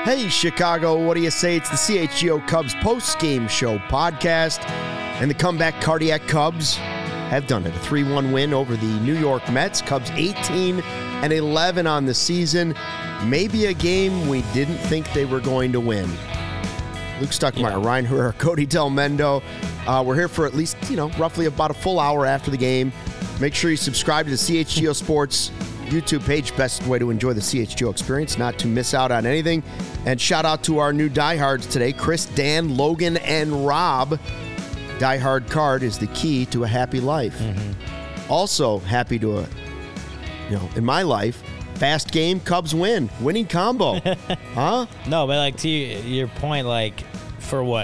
Hey, Chicago, what do you say? It's the CHGO Cubs post-game show podcast, and the comeback cardiac Cubs have done it. A 3-1 win over the New York Mets. Cubs 18-11 on the season. Maybe a game we didn't think they were going to win. Luke Stuckmeyer, Ryan Herrera, Cody Del Mendo. We're here for at least, roughly about a full hour after the game. Make sure you subscribe to the CHGO Sports YouTube page. Best way to enjoy the CHGO experience, not to miss out on anything. And shout out to our new diehards today, Chris, Dan, Logan, and Rob. Diehard card is the key to a happy life. Mm-hmm. Also happy to, in my life, fast game, Cubs win. Winning combo. Huh? No, but to your point, for what,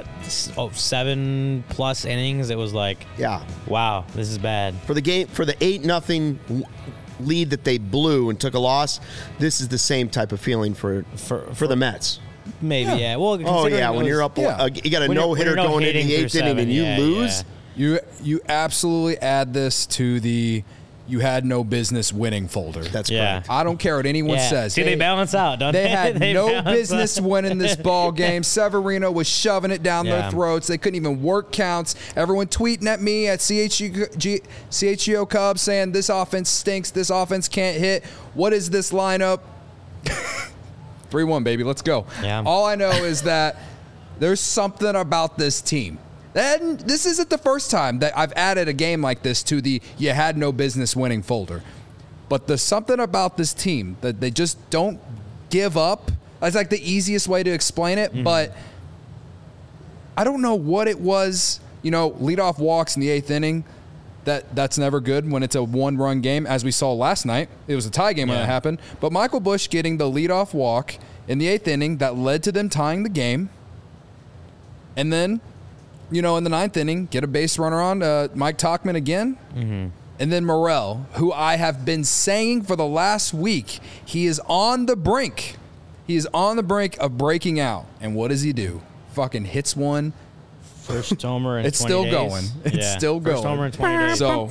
7+ innings, it was wow, this is bad. For the game, for the 8-0 lead that they blew and took a loss, this is the same type of feeling for the Mets. Maybe, yeah. Well, when you're up, you got a no-hitter going into the 8th inning and you lose. Yeah. You absolutely add this to the you had no business winning folder. That's correct. I don't care what anyone says. See, they balance out, don't they? They had no business winning this ball game. Severino was shoving it down their throats. They couldn't even work counts. Everyone tweeting at me at CHGO Cubs saying this offense stinks. This offense can't hit. What is this lineup? 3-1, baby. Let's go. Yeah. All I know is that there's something about this team. And this isn't the first time that I've added a game like this to the you had no business winning folder. But there's something about this team that they just don't give up. That's the easiest way to explain it. Mm-hmm. But I don't know what it was. Leadoff walks in the 8th inning. That's never good when it's a one-run game, as we saw last night. It was a tie game when that happened. But Michael Busch getting the leadoff walk in the 8th inning that led to them tying the game. And then, in the 9th inning, get a base runner on Mike Tauchman again. Mm-hmm. And then Morel, who I have been saying for the last week, he is on the brink. He is on the brink of breaking out. And what does he do? Fucking hits one. First homer in 20 days. It's still going. It's still going. First homer in 20 days. So,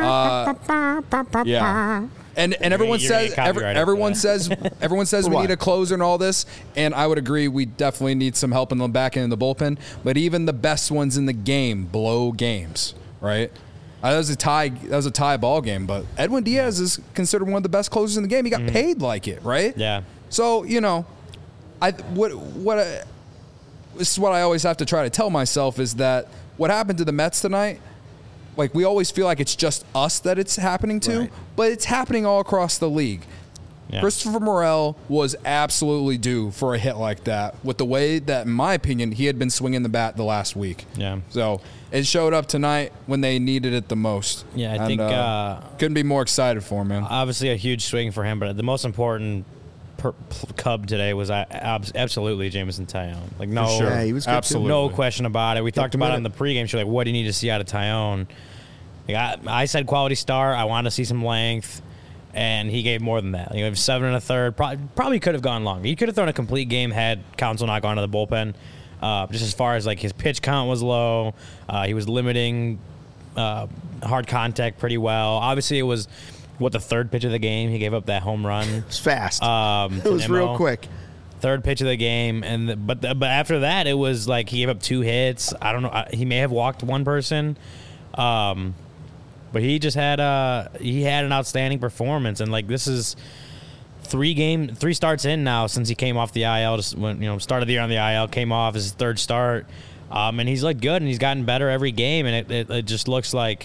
yeah. And everyone says we need a closer and all this, and I would agree we definitely need some help in the back end of the bullpen. But even the best ones in the game blow games, right? That was a tie ball game, but Edwin Diaz is considered one of the best closers in the game. He got paid like it, right? Yeah. So this is what I always have to try to tell myself is that what happened to the Mets tonight. We always feel like it's just us that it's happening to, but it's happening all across the league. Yeah. Christopher Morel was absolutely due for a hit like that with the way that, in my opinion, he had been swinging the bat the last week. Yeah. So it showed up tonight when they needed it the most. Yeah, I think couldn't be more excited for him, man. Obviously a huge swing for him, but the most important Cub today was absolutely Jameson Taillon. No, sure. Yeah, he was good absolutely. No question about it. We talked about it in the pregame show. What do you need to see out of Taillon? I said quality start. I wanted to see some length, and he gave more than that. 7 1/3. Probably could have gone longer. He could have thrown a complete game had Counsell not gone to the bullpen. Just as far as his pitch count was low, he was limiting hard contact pretty well. Obviously, it was the third pitch of the game. He gave up that home run. It was fast. It was real quick. Third pitch of the game, but after that, it was he gave up 2 hits. I don't know. He may have walked one person. But he just had an outstanding performance, and this is 3 starts in now since he came off the IL. Just when started the year on the IL, came off his 3rd start, and he's looked good and he's gotten better every game, and it just looks like,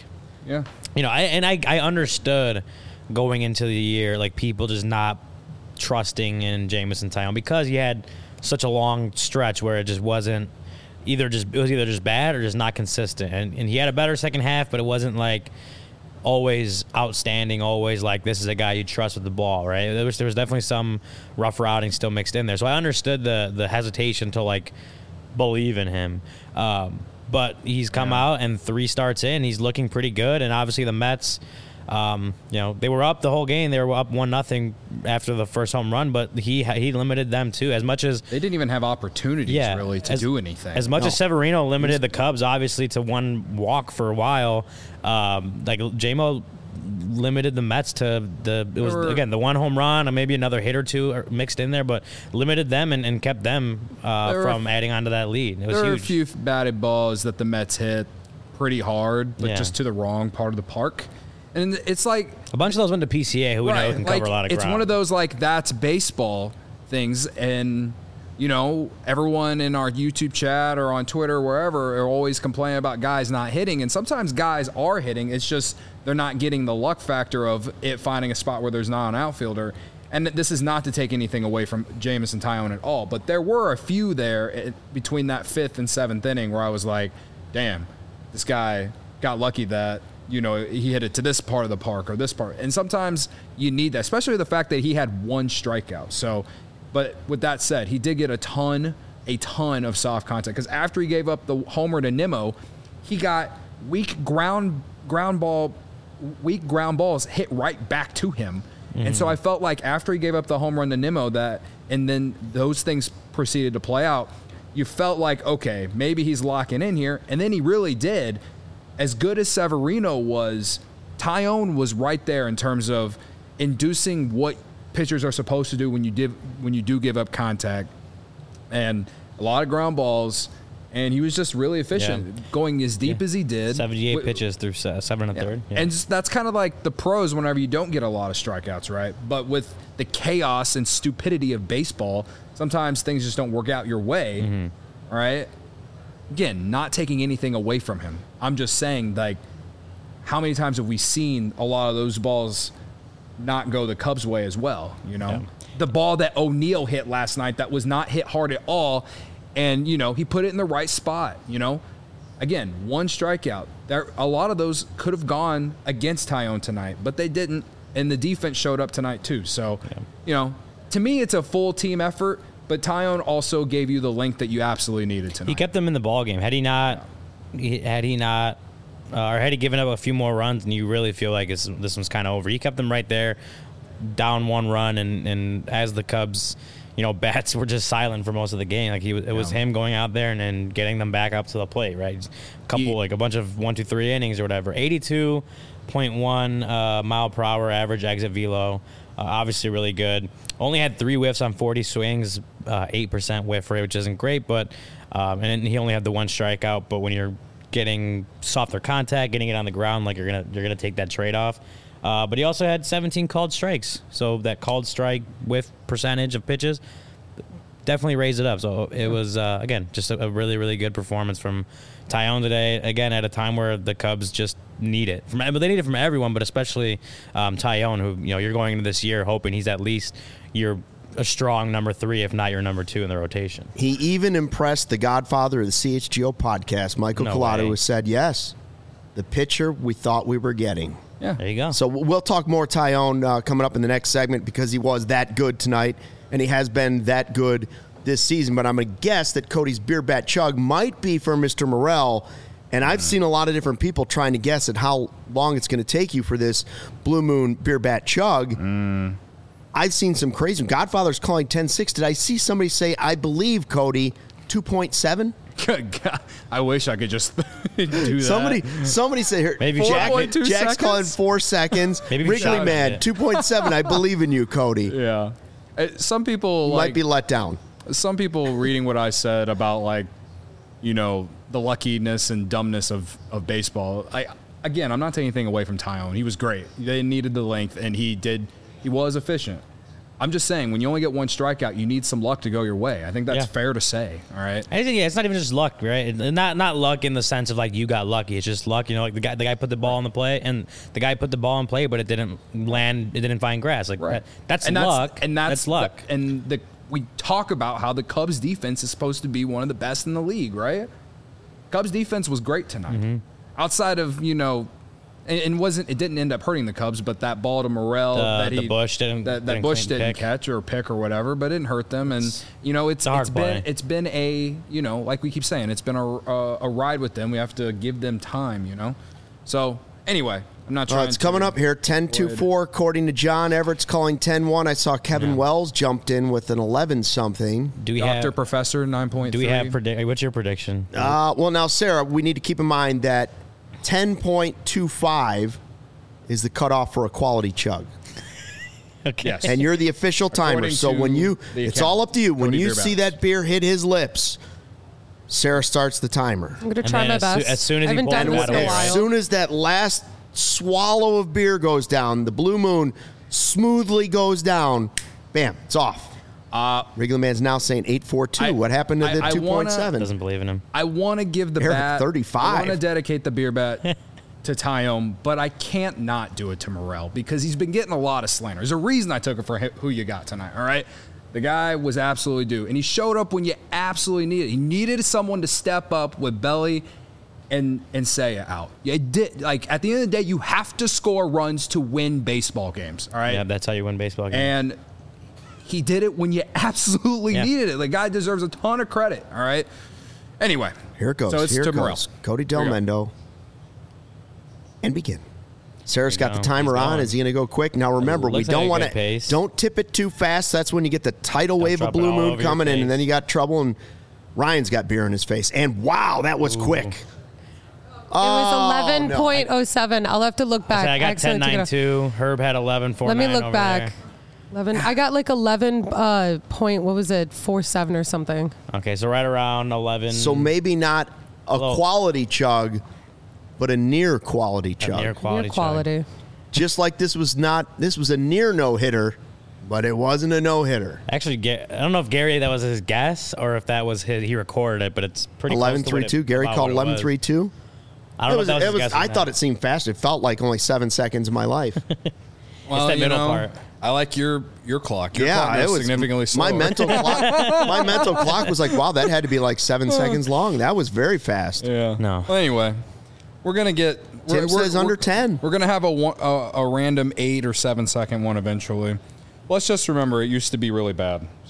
I understood going into the year people just not trusting in Jameson Taillon because he had such a long stretch where it just wasn't. It was either just bad or just not consistent, and he had a better second half, but it wasn't always outstanding, always this is a guy you trust with the ball, right? There was definitely some rough routing still mixed in there, so I understood the hesitation to believe in him, but he's come out and 3 starts in, he's looking pretty good, and obviously the Mets. They were up the whole game. They were up 1-0 after the first home run, but he limited them too. As much as they didn't even have opportunities really to do anything. As much as Severino limited the Cubs, obviously, to 1 walk for a while. JMO limited the Mets to the one home run, or maybe another hit or two mixed in there, but limited them and kept them from adding on to that lead. It was huge. There were a few batted balls that the Mets hit pretty hard, but just to the wrong part of the park. And it's like a bunch of those went to PCA, who we know can cover a lot of ground. It's one of those that's baseball things, and everyone in our YouTube chat or on Twitter, wherever, are always complaining about guys not hitting, and sometimes guys are hitting. It's just they're not getting the luck factor of it finding a spot where there's not an outfielder. And this is not to take anything away from Jamison Tyone at all, but there were a few there between that 5th and 7th inning where I was like, damn, this guy got lucky that he hit it to this part of the park or this part. And sometimes you need that, especially the fact that he had 1 strikeout. So, but with that said, he did get a ton of soft contact, because after he gave up the homer to Nimmo, he got weak ground balls hit right back to him. Mm-hmm. And so I felt like after he gave up the home run to Nimmo, and then those things proceeded to play out, you felt like, okay, maybe he's locking in here. And then he really did. As good as Severino was, Tyone was right there in terms of inducing what pitchers are supposed to do when you do give up contact, and a lot of ground balls, and he was just really efficient, going as deep as he did. 78 pitches through 7 1/3. Yeah. And that's kind of like the pros whenever you don't get a lot of strikeouts, right? But with the chaos and stupidity of baseball, sometimes things just don't work out your way, right? Again, not taking anything away from him. I'm just saying, how many times have we seen a lot of those balls not go the Cubs' way as well, Yeah. The ball that O'Neill hit last night that was not hit hard at all, and, he put it in the right spot, Again, 1 strikeout. A lot of those could have gone against Tyone tonight, but they didn't, and the defense showed up tonight too. So, to me, it's a full team effort. But Tyone also gave you the length that you absolutely needed tonight. He kept them in the ball game. Had he given up a few more runs, and you really feel like this one's kind of over, he kept them right there, down 1 run, and as the Cubs, bats were just silent for most of the game. It was him going out there and getting them back up to the plate, right? A bunch of 1, 2, 3 innings or whatever. 82.1 mile per hour average exit velo. Obviously really good. Only had 3 whiffs on 40 swings, 8% whiff rate, which isn't great, but and he only had the 1 strikeout. But when you're getting softer contact, getting it on the ground, you're gonna take that trade off. But he also had 17 called strikes, so that called strike whiff percentage of pitches definitely raised it up. So it was again just a really, really good performance from Tyone today. Again, at a time where the Cubs just need it. They need it from everyone, but especially Tyone, who you're going into this year hoping he's at least a strong number 3, if not your number 2 in the rotation. He even impressed the godfather of the CHGO podcast, Michael Collado, who said, yes, the pitcher we thought we were getting. Yeah, there you go. So we'll talk more Tyone coming up in the next segment, because he was that good tonight, and he has been that good this season. But I'm going to guess that Cody's beer bat chug might be for Mr. Morel, and I've seen a lot of different people trying to guess at how long it's going to take you for this Blue Moon beer bat chug. I've seen some crazy. Godfather's calling 10.6. Did I see somebody say, I believe, Cody, 2.7? I wish I could just do that. Somebody say here. Maybe Jack's calling 4 seconds. Maybe Wrigley Man, 2.7. I believe in you, Cody. Yeah. Some people might be let down. Some people reading what I said about the luckiness and dumbness of baseball. I'm not taking anything away from Tyone. He was great. They needed the length, and he was efficient. I'm just saying, when you only get 1 strikeout, you need some luck to go your way. I think that's fair to say. All right. I think it's not even just luck, right? Not luck in the sense of you got lucky. It's just luck. The guy put the ball in the play, and the guy put the ball in play, but it didn't land. It didn't find grass. That's luck. That's luck. We talk about how the Cubs defense is supposed to be one of the best in the league, right? Cubs defense was great tonight. Outside of it didn't end up hurting the Cubs, but that ball to Morel that Bush didn't catch or pick or whatever, but it didn't hurt them. And it's been a like we keep saying, it's been a ride with them. We have to give them time, So anyway, I'm not trying. It's coming up here, 10-4 according to John. Everett's calling 10-1. I saw Kevin Wells jumped in with an 11-something. Professor 9.3. Do we have what's your prediction? Well, now Sarah, we need to keep in mind that 10.25 is the cutoff for a quality chug. Okay. Yes. And you're the official timer. According So to when you, the it's account, all up to you. When Cody you Beer see Balance. that beer hit his lips, Sarah starts the timer. I'm going to And try then my as best. soon as I he haven't pulls done it this out in a away, while. As soon as that last swallow of beer goes down, the Blue Moon smoothly goes down, bam, it's off. Regular Man's now saying 8.42. What happened to the I wanna- 2.7? Doesn't believe in him. I want to give the Eric, bat 35. I want to dedicate the beer bet to Tyone, but I can't not do it to Morel because he's been getting a lot of slander. There's a reason I took it for who you got tonight, all right? The guy was absolutely due, and he showed up when you absolutely needed it. He needed someone to step up with Belly and say it out. You did, like, at the end of the day, you have to score runs to win baseball games, all right? Yeah, that's how you win baseball games. And he did it when you absolutely Yeah. needed it. The guy deserves a ton of credit, all right? Anyway. Here it goes. So it's Here to it Morel. goes. Cody Here Del we go. Mendo. And begin. Sarah's There got you the go. timer He's on. going. Is he going to go quick? Now remember, we Looks like don't a want good pace. don't tip it too fast. That's when you get the tidal wave of drop it Blue all Moon over your coming in, face. and then you got trouble. And Ryan's got beer in his face. And wow, that was quick. It was 11.07. I'll have to look back. I got accidentally took it 10.92. Herb had 11.49. Let me look over back. there. 11. I got like 11 point. What was it? 4.7 or something. Okay, so right around 11. So maybe not a Low. quality chug, but a near quality chug. near quality. Near chug. quality. Just like this was a near no hitter, but it wasn't a no hitter. Actually, I don't know if Gary, that was his guess or if that was he recorded it, but it's pretty close to what it- 11.32. Gary about called what it was. 11.32. I don't know if that was his guess or I not. thought it seemed fast. It felt like only 7 seconds of my life. Well, that middle part. I like your clock. Your Yeah, clock it goes was significantly slower. My mental clock. My mental clock was like, wow, that had to be like 7 seconds long. That was very fast. Yeah. No. Well, anyway, we're gonna get. Tim says under 10. We're gonna have a random 8 or 7 second one eventually. Let's just remember, it used to be really bad. So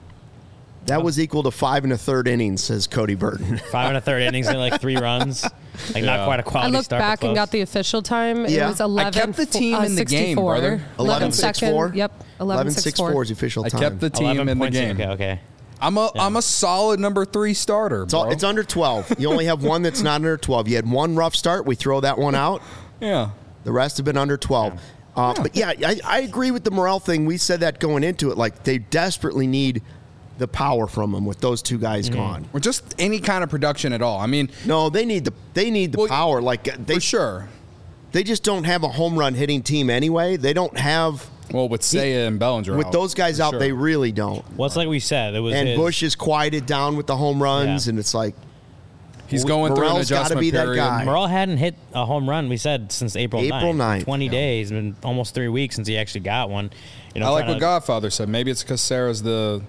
That was equal to 5 1/3 innings, says Cody Burton. 5 1/3 innings and like 3 runs. Like not quite a I quality looked start. but back and close. got the official time. Yeah. It was 11. I kept the team in the game, 64. brother. 11.64. Yep. 11.64 is the official I time. kept the team in the 11.2. game. Okay. I'm a solid number 3 starter, It's, all, bro. it's under 12. You only have one that's not under 12. You had one rough start. We throw that one out. Yeah. The rest have been under 12. But yeah, I agree with the Morel thing. We said that going into it. Like, they desperately need the power from him with those two guys gone. Or just any kind of production at all. I mean, No, they need the Well, power. Like, for sure. they just don't have a home run hitting team anyway. They don't have Well, with Seiya and Bellinger with out, those guys for out. sure. They really don't. Well, it's like we said. It was And his, Bush is quieted down with the home runs, Yeah. and it's like He's going through an Morel's gotta adjustment be that period. guy. Morel hadn't hit a home run, we said, since April 9th. 9th. 20 days, been almost 3 weeks since he actually got one. You know, I like trying what to- Godfather said. Maybe it's because Sarah's the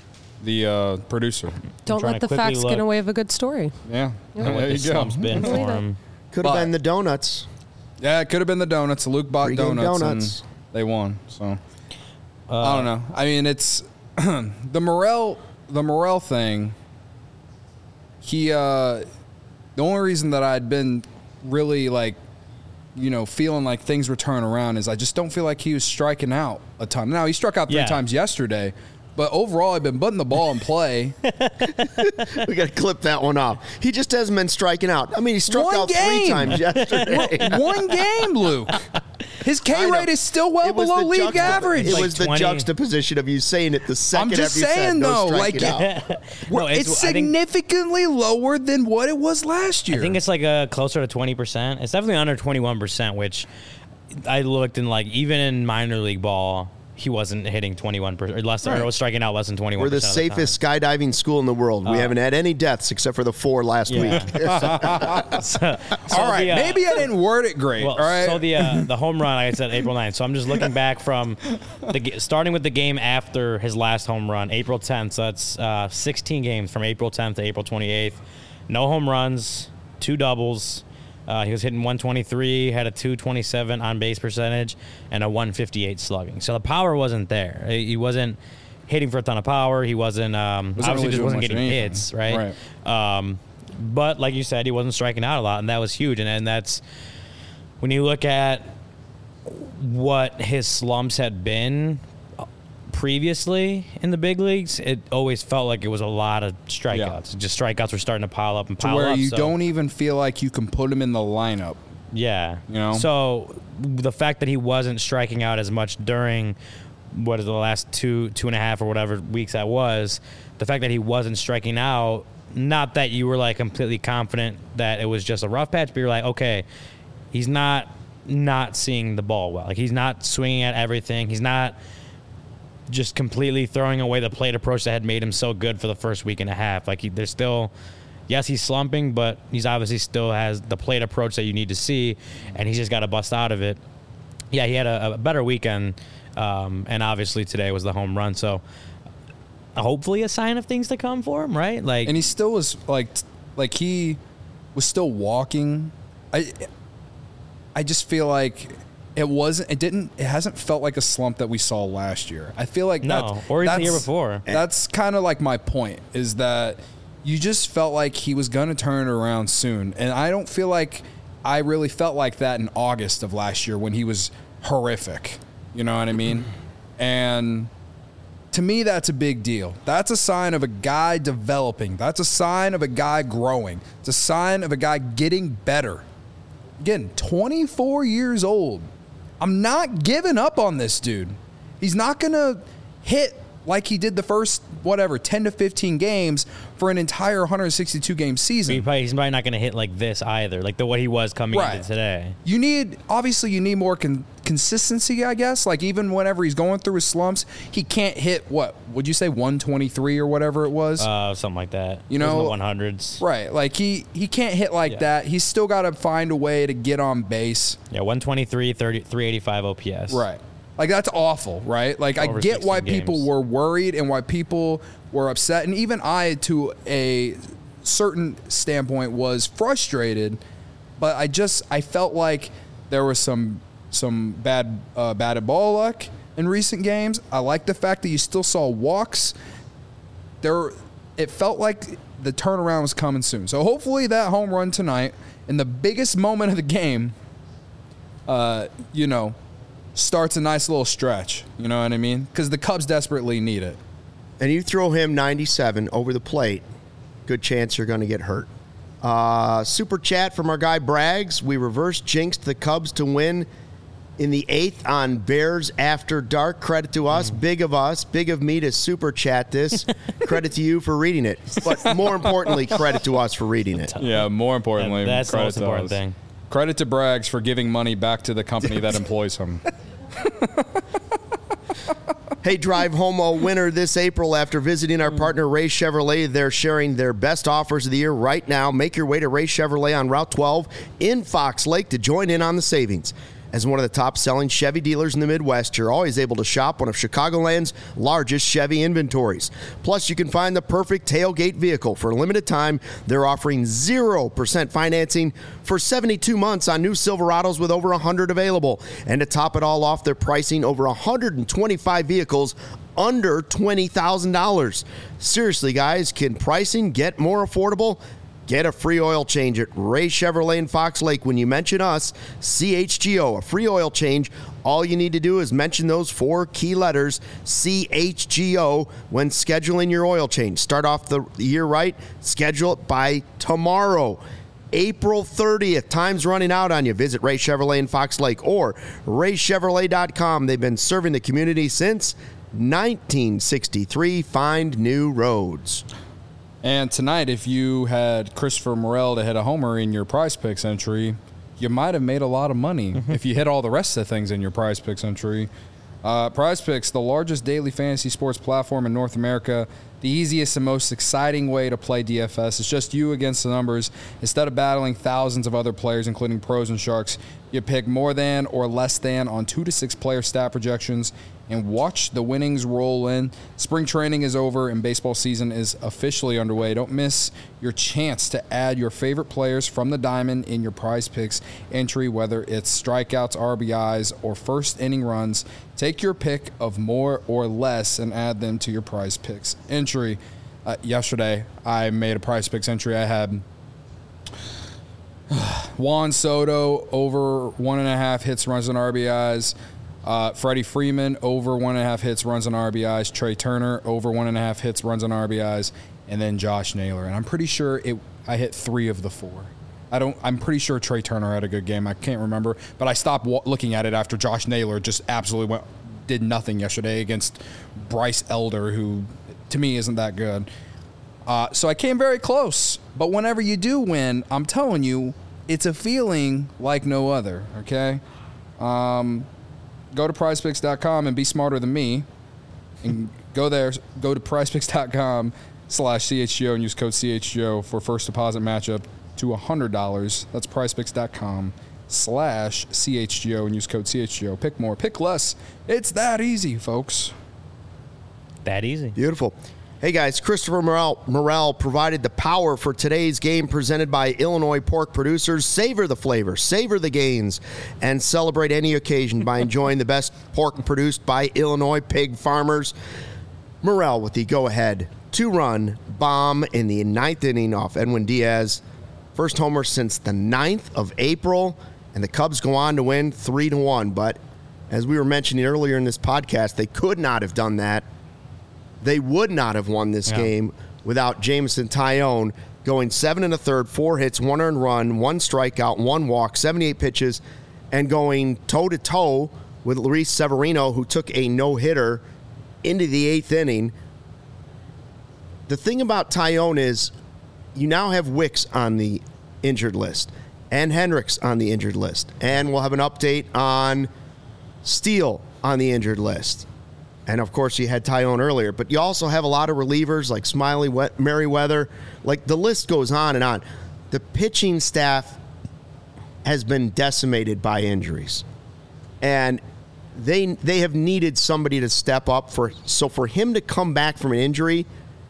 producer. Don't trying let to the quickly facts look. get away with a good story. Yeah. what There the you go. slump's been for Believe it. him. could have But- been the donuts. Yeah, it could have been the donuts. Luke bought Pre-game donuts, donuts. and they won. So I don't know. I mean, it's the Morel thing. He the only reason that I'd been really like, feeling like things were turning around is I just don't feel like he was striking out a ton. Now he struck out 3 Yeah. times yesterday, but overall I've been putting the ball in play. We got to clip that one off. He just hasn't been striking out. I mean, he struck One out 3 game. times yesterday. One game, Luke. His I K know. rate is still well It was below the league average. It Like was the 20. juxtaposition of you saying it the second I'm just after you saying, said no though, striking like- out. No, It's I think- significantly lower than what it was last year. I think it's like closer to 20%. It's definitely under 21%, which I looked in, like, even in minor league ball, he wasn't hitting 21% or less, or was striking out less than 21%. We're the of safest skydiving school in the world. We haven't had any deaths except for the 4 last week. all right. the, Maybe I didn't word it great. Well, all right. so the home run, like I said, April 9th. So I'm just looking back from starting with the game after his last home run, April 10th. So that's 16 games from April 10th to April 28th. No home runs, 2 doubles. He was hitting 123, had a 227 on base percentage, and a 158 slugging. So the power wasn't there. He wasn't hitting for a ton of power. He wasn't obviously really just doing wasn't much getting of anything. hits, right? But like you said, he wasn't striking out a lot, and that was huge. And that's when you look at what his slumps had been previously in the big leagues, it always felt like it was a lot of strikeouts. Just strikeouts were starting to pile up and to pile where up. you so- don't even feel like you can put him in the lineup Yeah. You know? So the fact that he wasn't striking out as much during what is the last two and a half or whatever weeks that was, the fact that he wasn't striking out, not that you were like completely confident that it was just a rough patch, but you're like, okay, he's not seeing the ball well. Like he's not swinging at everything. He's not just completely throwing away the plate approach that had made him so good for the first week and a half. Like there's still, yes, he's slumping, but he's obviously still has the plate approach that you need to see, and he's just got to bust out of it. Yeah, he had a better weekend, and obviously today was the home run. So hopefully a sign of things to come for him, right? Like, and he still was like he was still walking. I just feel like it hasn't felt like a slump that we saw last year. I feel like or even the year before. That's kind of like my point, is that you just felt like he was going to turn it around soon. And I don't feel like I really felt like that in August of last year when he was horrific. You know what I mean? And to me, that's a big deal. That's a sign of a guy developing. That's a sign of a guy growing. It's a sign of a guy getting better. Again, 24 years old. I'm not giving up on this dude. He's not going to hit like he did the first, 10 to 15 games for an entire 162-game season. He's probably not going to hit like this either, like what he was coming into today. You need more consistency, I guess. Like even whenever he's going through his slumps, he can't hit, what would you say, 123 or whatever it was? Something like that. You know, in the 100s. Right. Like he can't hit like that. He's still got to find a way to get on base. Yeah, 123, 385 OPS. Right. Like, that's awful, right? Like, I get why people were worried and why people were upset. And even I, to a certain standpoint, was frustrated. But I felt like there was some bad batted ball luck in recent games. I like the fact that you still saw walks. It felt like the turnaround was coming soon. So hopefully that home run tonight, in the biggest moment of the game, starts a nice little stretch. You know what I mean? Because the Cubs desperately need it. And you throw him 97 over the plate, good chance you're going to get hurt. Super chat from our guy Braggs. We reverse jinxed the Cubs to win in the 8th on Bears After Dark. Credit to us. Big of me to super chat this. Credit to you for reading it. But more importantly, credit to us for reading it. Yeah, more importantly, and that's the most important thing. Credit to Braggs for giving money back to the company that employs him. Hey, drive home a winner this April after visiting our partner Ray Chevrolet. They're sharing their best offers of the year right now. Make your way to Ray Chevrolet on Route 12 in Fox Lake to join in on the savings. As one of the top-selling Chevy dealers in the Midwest, you're always able to shop one of Chicagoland's largest Chevy inventories. Plus, you can find the perfect tailgate vehicle. For a limited time, they're offering 0% financing for 72 months on new Silverados with over 100 available. And to top it all off, they're pricing over 125 vehicles under $20,000. Seriously, guys, can pricing get more affordable? Get a free oil change at Ray Chevrolet in Fox Lake. When you mention us, CHGO, a free oil change. All you need to do is mention those 4 key letters, CHGO, when scheduling your oil change. Start off the year right. Schedule it by tomorrow, April 30th. Time's running out on you. Visit Ray Chevrolet in Fox Lake or raychevrolet.com. They've been serving the community since 1963. Find new roads. And tonight, if you had Christopher Morel to hit a homer in your Prize Picks entry, you might have made a lot of money if you hit all the rest of the things in your Prize Picks entry. Prize Picks, the largest daily fantasy sports platform in North America, the easiest and most exciting way to play DFS. It's just you against the numbers. Instead of battling thousands of other players, including pros and sharks, you pick more than or less than on 2 to 6 player stat projections and watch the winnings roll in. Spring training is over and baseball season is officially underway. Don't miss your chance to add your favorite players from the diamond in your Prize Picks entry, whether it's strikeouts, RBIs, or first inning runs. Take your pick of more or less and add them to your Prize Picks entry. Yesterday, I made a Prize Picks entry. I had Juan Soto over 1.5 hits, runs, and RBIs. Freddie Freeman over 1.5 hits, runs, and RBIs. Trey Turner over 1.5 hits, runs, and RBIs. And then Josh Naylor. And I'm pretty sure I hit 3 of the 4. I'm pretty sure Trey Turner had a good game. I can't remember, but I stopped looking at it after Josh Naylor just absolutely did nothing yesterday against Bryce Elder, who to me isn't that good. So I came very close. But whenever you do win, I'm telling you, it's a feeling like no other, okay? Go to prizepicks.com and be smarter than me. And go to prizepicks.com/CHGO and use code CHGO for first deposit matchup to $100. That's prizepicks.com/CHGO and use code CHGO. Pick more, pick less. It's that easy, folks. That easy. Beautiful. Hey guys, Christopher Morel provided the power for today's game presented by Illinois Pork Producers. Savor the flavor, savor the gains, and celebrate any occasion by enjoying the best pork produced by Illinois pig farmers. Morel with the go-ahead 2-run bomb in the 9th inning off Edwin Diaz. First homer since the 9th of April, and the Cubs go on to win 3-1. But as we were mentioning earlier in this podcast, they could not have done that. They would not have won this game without Jameson Taillon going 7 1/3, 4 hits, 1 earned run, 1 strikeout, 1 walk, 78 pitches, and going toe-to-toe with Luis Severino, who took a no-hitter into the 8th inning. The thing about Taillon is you now have Wicks on the injured list and Hendricks on the injured list, and we'll have an update on Steele on the injured list. And, of course, you had Taillon earlier. But you also have a lot of relievers like Smiley, Merriweather. Like, the list goes on and on. The pitching staff has been decimated by injuries. And they have needed somebody to step up. So for him to come back from an injury,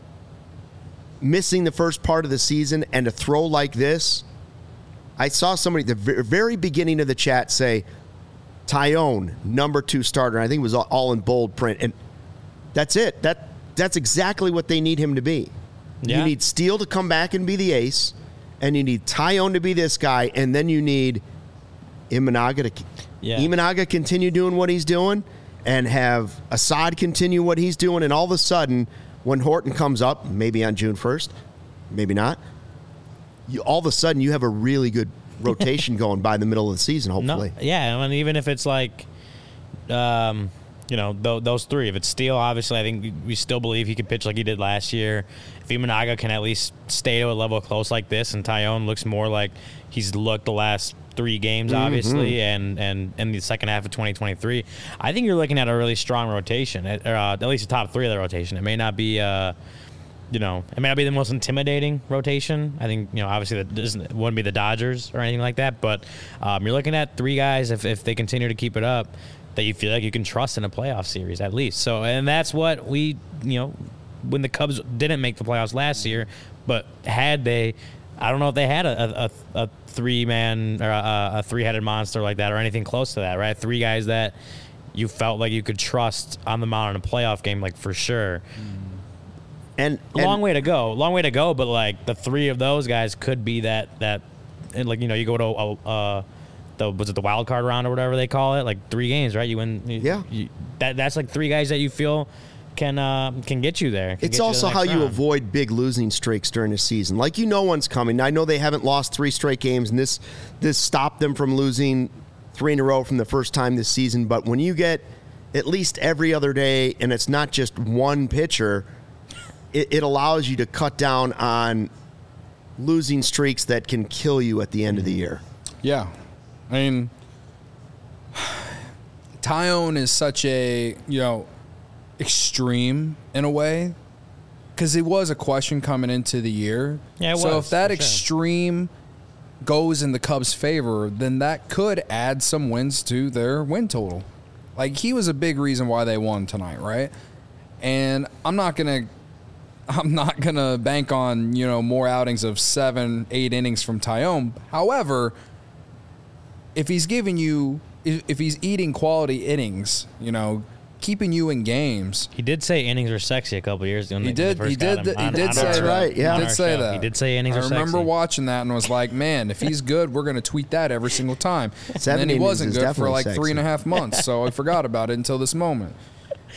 missing the first part of the season, and to throw like this, I saw somebody at the very beginning of the chat say, Taillon, number 2 starter. I think it was all in bold print. And that's it. That's exactly what they need him to be. Yeah. You need Steele to come back and be the ace, and you need Taillon to be this guy, and then you need Imanaga to continue doing what he's doing, and have Assad continue what he's doing, and all of a sudden, when Horton comes up, maybe on June 1st, maybe not, all of a sudden you have a really good rotation going by the middle of the season, hopefully. No, yeah, and even if it's like, those 3. If it's Steele, obviously, I think we still believe he could pitch like he did last year. If Imanaga can at least stay to a level close like this, and Taillon looks more like he's looked the last 3 games, obviously, and in the second half of 2023, I think you're looking at a really strong rotation, at least the top 3 of the rotation. It may not be it may not be the most intimidating rotation. I think, obviously it wouldn't be the Dodgers or anything like that, but you're looking at 3 guys, if they continue to keep it up, that you feel like you can trust in a playoff series at least. So, and that's what we, when the Cubs didn't make the playoffs last year, but had they, I don't know if they had a 3-man or a 3-headed monster like that or anything close to that, right? 3 guys that you felt like you could trust on the mound in a playoff game, like for sure. And long way to go, but like the 3 of those guys could be that, and like, you go to was it the wild card round or whatever they call it, like 3 games, right? You win, that's like 3 guys that you feel can get you there. It's also how you avoid big losing streaks during the season. Like, one's coming. I know they haven't lost 3 straight games, and this stopped them from losing 3 in a row from the first time this season. But when you get at least every other day, and it's not just one pitcher, it allows you to cut down on losing streaks that can kill you at the end of the year. Yeah. I mean, Taillon is such a, extreme in a way, because it was a question coming into the year. Yeah, it was. So if that extreme goes in the Cubs' favor, then that could add some wins to their win total. Like, he was a big reason why they won tonight, right? And I'm not gonna bank on, more outings of 7, 8 innings from Taillon. However, if he's eating quality innings, keeping you in games. He did say innings are sexy a couple years ago. He did say that. Yeah. He did say that. He did say innings are sexy. I remember watching that and was like, man, if he's good, we're going to tweet that every single time. And then he wasn't good for like 3.5 months, so I forgot about it until this moment.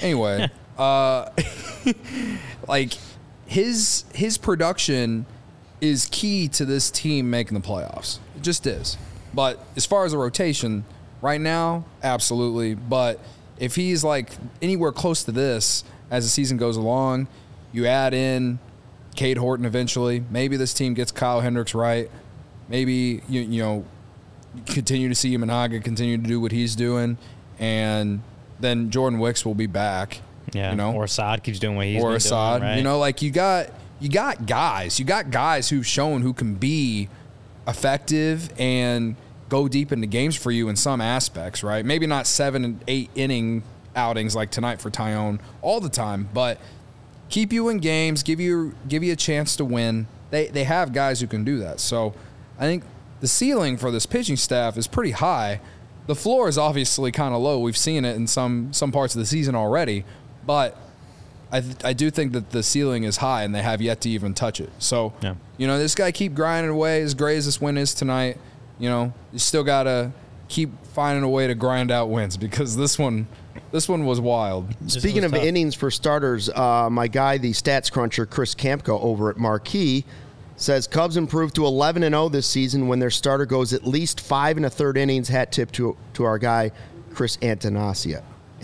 Anyway, like his production is key to this team making the playoffs. It just is. But as far as a rotation, right now, absolutely. But if he's like anywhere close to this as the season goes along, you add in Cade Horton eventually. Maybe this team gets Kyle Hendricks right. Maybe you continue to see Imanaga continue to do what he's doing, and then Jordan Wicks will be back. Yeah, you know, or Assad keeps doing what he's or been Assad. doing, right? You know, like you got guys who've shown who can be effective and go deep into games for you in some aspects, right? Maybe not 7 and 8 inning outings like tonight for Tyone all the time, but keep you in games, give you a chance to win. They have guys who can do that. So I think the ceiling for this pitching staff is pretty high. The floor is obviously kind of low. We've seen it in some parts of the season already, but I do think that the ceiling is high, and they have yet to even touch it. So, this guy keep grinding away. As great as this win is tonight, you still got to keep finding a way to grind out wins, because this one was wild. Speaking of innings for starters, my guy, the stats cruncher, Chris Kampka over at Marquee, says Cubs improved to 11-0 this season when their starter goes at least 5 1/3 innings. Hat tip to our guy, Chris Antonasi.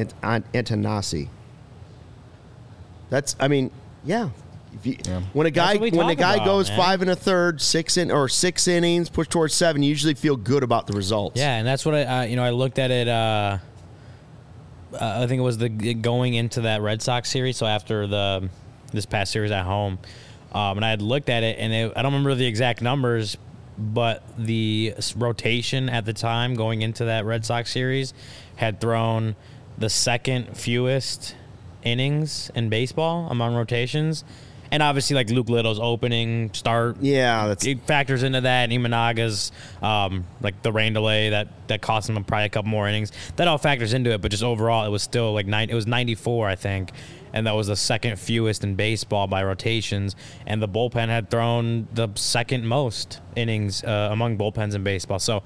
That's, yeah. When a guy goes 5 1/3, 6 innings, push towards 7, you usually feel good about the results. Yeah, and that's what I looked at it. I think it was going into that Red Sox series. So after this past series at home, and I had looked at it, and I don't remember the exact numbers, but the rotation at the time going into that Red Sox series had thrown the second fewest innings in baseball among rotations. And obviously, like Luke Little's opening start, it factors into that. And Imanaga's like the rain delay that cost him probably a couple more innings. That all factors into it. But just overall, it was still like it was 94, I think, and that was the second fewest in baseball by rotations. And the bullpen had thrown the second most innings among bullpens in baseball. So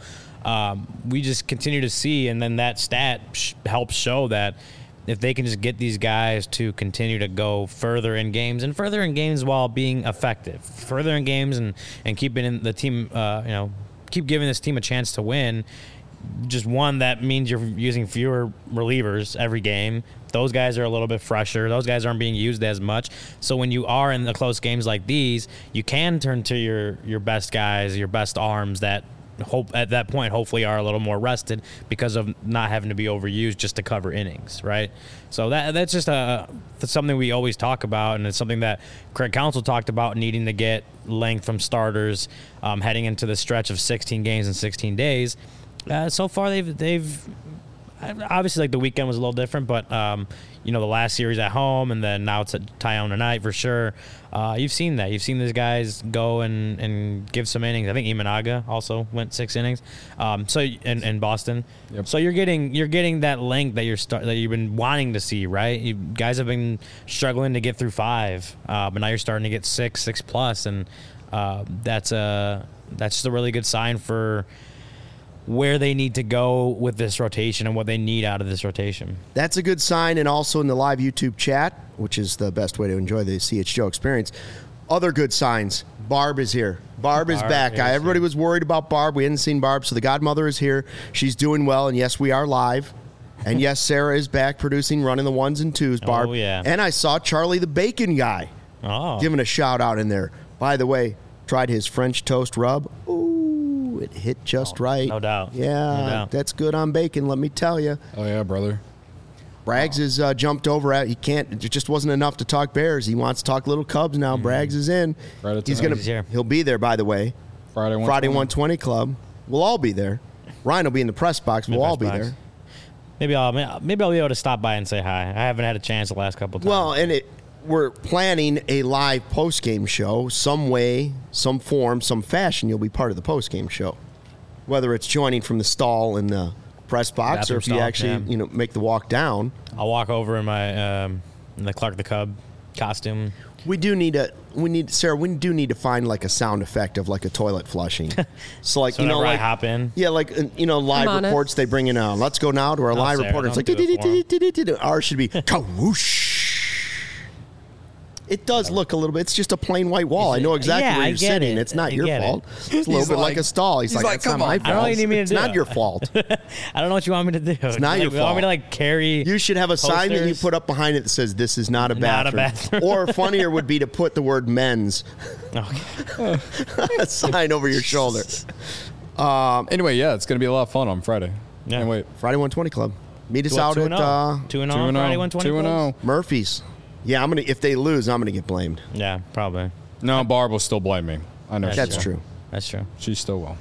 we just continue to see, and then that stat helps show that if they can just get these guys to continue to go further in games while being effective, further in games and keeping in the team, keep giving this team a chance to win. Just one, that means you're using fewer relievers every game. Those guys are a little bit fresher. Those guys aren't being used as much. So when you are in the close games like these, you can turn to your best guys, your best arms that at that point hopefully are a little more rested because of not having to be overused just to cover innings, right? So that's just something we always talk about, and it's something that Craig Counsell talked about, needing to get length from starters heading into the stretch of 16 games in 16 days. So far they've obviously, like, the weekend was a little different, but the last series at home, and then now it's at Tyone tonight for sure. You've seen that. You've seen these guys go and give some innings. I think Imanaga also went 6 innings. So in Boston. Yep. So you're getting that length that you've been wanting to see, right? You guys have been struggling to get through 5, but now you're starting to get 6 plus, and that's just a really good sign for where they need to go with this rotation and what they need out of this rotation. That's a good sign. And also in the live YouTube chat, which is the best way to enjoy the CH Joe experience, other good signs. Barb is here. Barb is back. Everybody was worried about Barb. We hadn't seen Barb, so the godmother is here. She's doing well, and yes, we are live. And yes, Sarah is back producing, running the 1s and 2s, Barb. Oh, yeah. And I saw Charlie the Bacon Guy giving a shout out in there. By the way, tried his French toast rub. Ooh. It hit just right. No doubt. Yeah, no doubt. That's good on bacon, let me tell you. Oh, yeah, brother. Braggs has jumped over at. It just wasn't enough to talk Bears. He wants to talk little Cubs now. Braggs is in. He'll be there, by the way. Friday 120 Club. We'll all be there. Ryan will be in the press box. We'll all be there. Maybe I'll be able to stop by and say hi. I haven't had a chance the last couple of times. Well, and we're planning a live post-game show. Some way, some form, some fashion, you'll be part of the post-game show. Whether it's joining from the stall in the press box, or if you actually make the walk down. I'll walk over in my in the Clark the Cub costume. We do need to find like a sound effect of like a toilet flushing. So like, so I hop in. Yeah, like live reports they bring in. Let's go now to our live reporter. It's like ours should be whoosh. It does look a little bit. It's just a plain white wall. I know exactly Yeah, where I you're get sitting. it. It's not I your get fault. it. It's a little He's bit like- like a stall. He's he's like, like, it's not come my on. fault. I don't know what you need me to It's do. not your fault. I don't know what you want me to do. It's not your You want me fault. to like carry? You should have a sign that you posters? put up behind it that says, "This is not a Not a bathroom." bathroom. Or funnier would be to put the word "men's" Okay. a sign over your shoulder. Anyway, yeah, it's going to be a lot of fun on Friday. Yeah. Can't wait. Friday 120 Club. Meet us Well, out at 2-0 on Friday 120. 2-0. Murphy's. Yeah, I'm gonna. If they lose, I'm gonna get blamed. Yeah, probably. No, Barb will still blame me. I know. That's she will. true. That's true. She still will.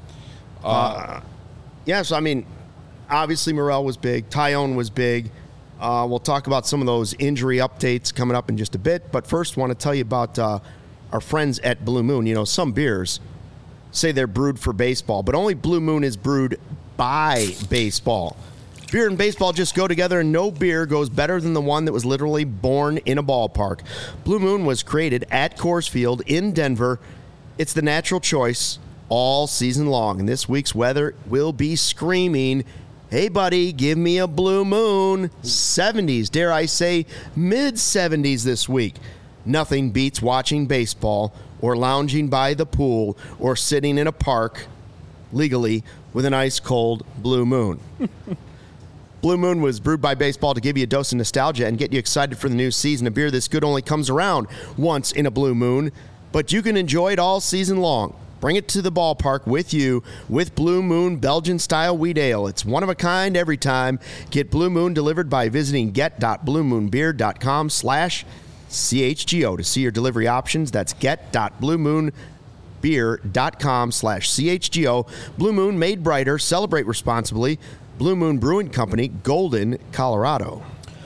Yeah, so I mean, obviously Morel was big. Tyone was big. We'll talk about some of those injury updates coming up in just a bit. But first, want to tell you about our friends at Blue Moon. You know, some beers say they're brewed for baseball, but only Blue Moon is brewed by baseball. Beer and baseball just go together, and no beer goes better than the one that was literally born in a ballpark. Blue Moon was created at Coors Field in Denver. It's the natural choice all season long, and this week's weather will be screaming, "Hey, buddy, give me a Blue Moon." 70s, dare I say, mid-70s this week. Nothing beats watching baseball or lounging by the pool or sitting in a park, legally, with an ice-cold Blue Moon. Blue Moon was brewed by baseball to give you a dose of nostalgia and get you excited for the new season. A beer this good only comes around once in a Blue Moon, but you can enjoy it all season long. Bring it to the ballpark with you with Blue Moon Belgian-style wheat ale. It's one of a kind every time. Get Blue Moon delivered by visiting get.bluemoonbeer.com/CHGO to see your delivery options. That's get.bluemoonbeer.com/CHGO. Blue Moon, made brighter. Celebrate responsibly. Blue Moon Brewing Company, Golden, Colorado.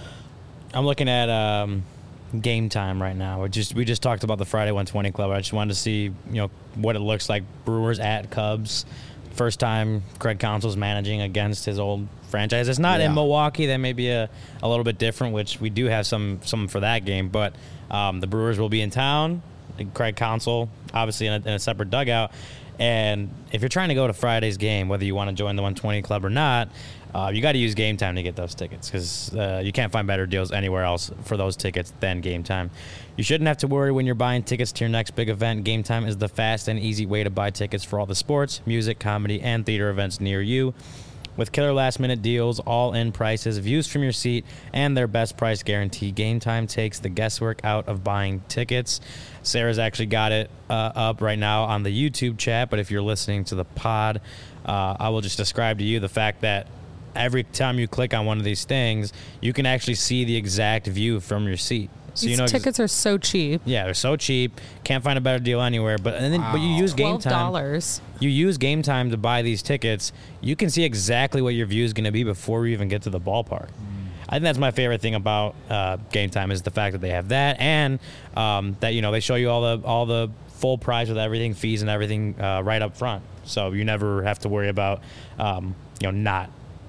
I'm looking at Game Time right now. We just talked about the Friday 120 Club. I just wanted to see what it looks like. Brewers at Cubs. First time Craig Counsell's managing against his old franchise. It's not in Milwaukee. That may be a little bit different, which we do have some for that game. But the Brewers will be in town. Craig Counsell, obviously in a separate dugout. And if you're trying to go to Friday's game, whether you want to join the 120 Club or not, you got to use Game Time to get those tickets because you can't find better deals anywhere else for those tickets than Game Time. You shouldn't have to worry when you're buying tickets to your next big event. Game Time is the fast and easy way to buy tickets for all the sports, music, comedy, and theater events near you. With killer last-minute deals, all-in prices, views from your seat, and their best price guarantee, Game Time takes the guesswork out of buying tickets. Sarah's actually got it up right now on the YouTube chat, but if you're listening to the pod, I will just describe to you the fact that every time you click on one of these things, you can actually see the exact view from your seat. So These tickets are so cheap. Yeah, they're so cheap. Can't find a better deal anywhere. But you use Game Time. $12. You use Game Time to buy these tickets. You can see exactly what your view is going to be before you even get to the ballpark. I think that's my favorite thing about Game Time is the fact that they have that, and that they show you all the full price with everything, fees and everything right up front. So you never have to worry about not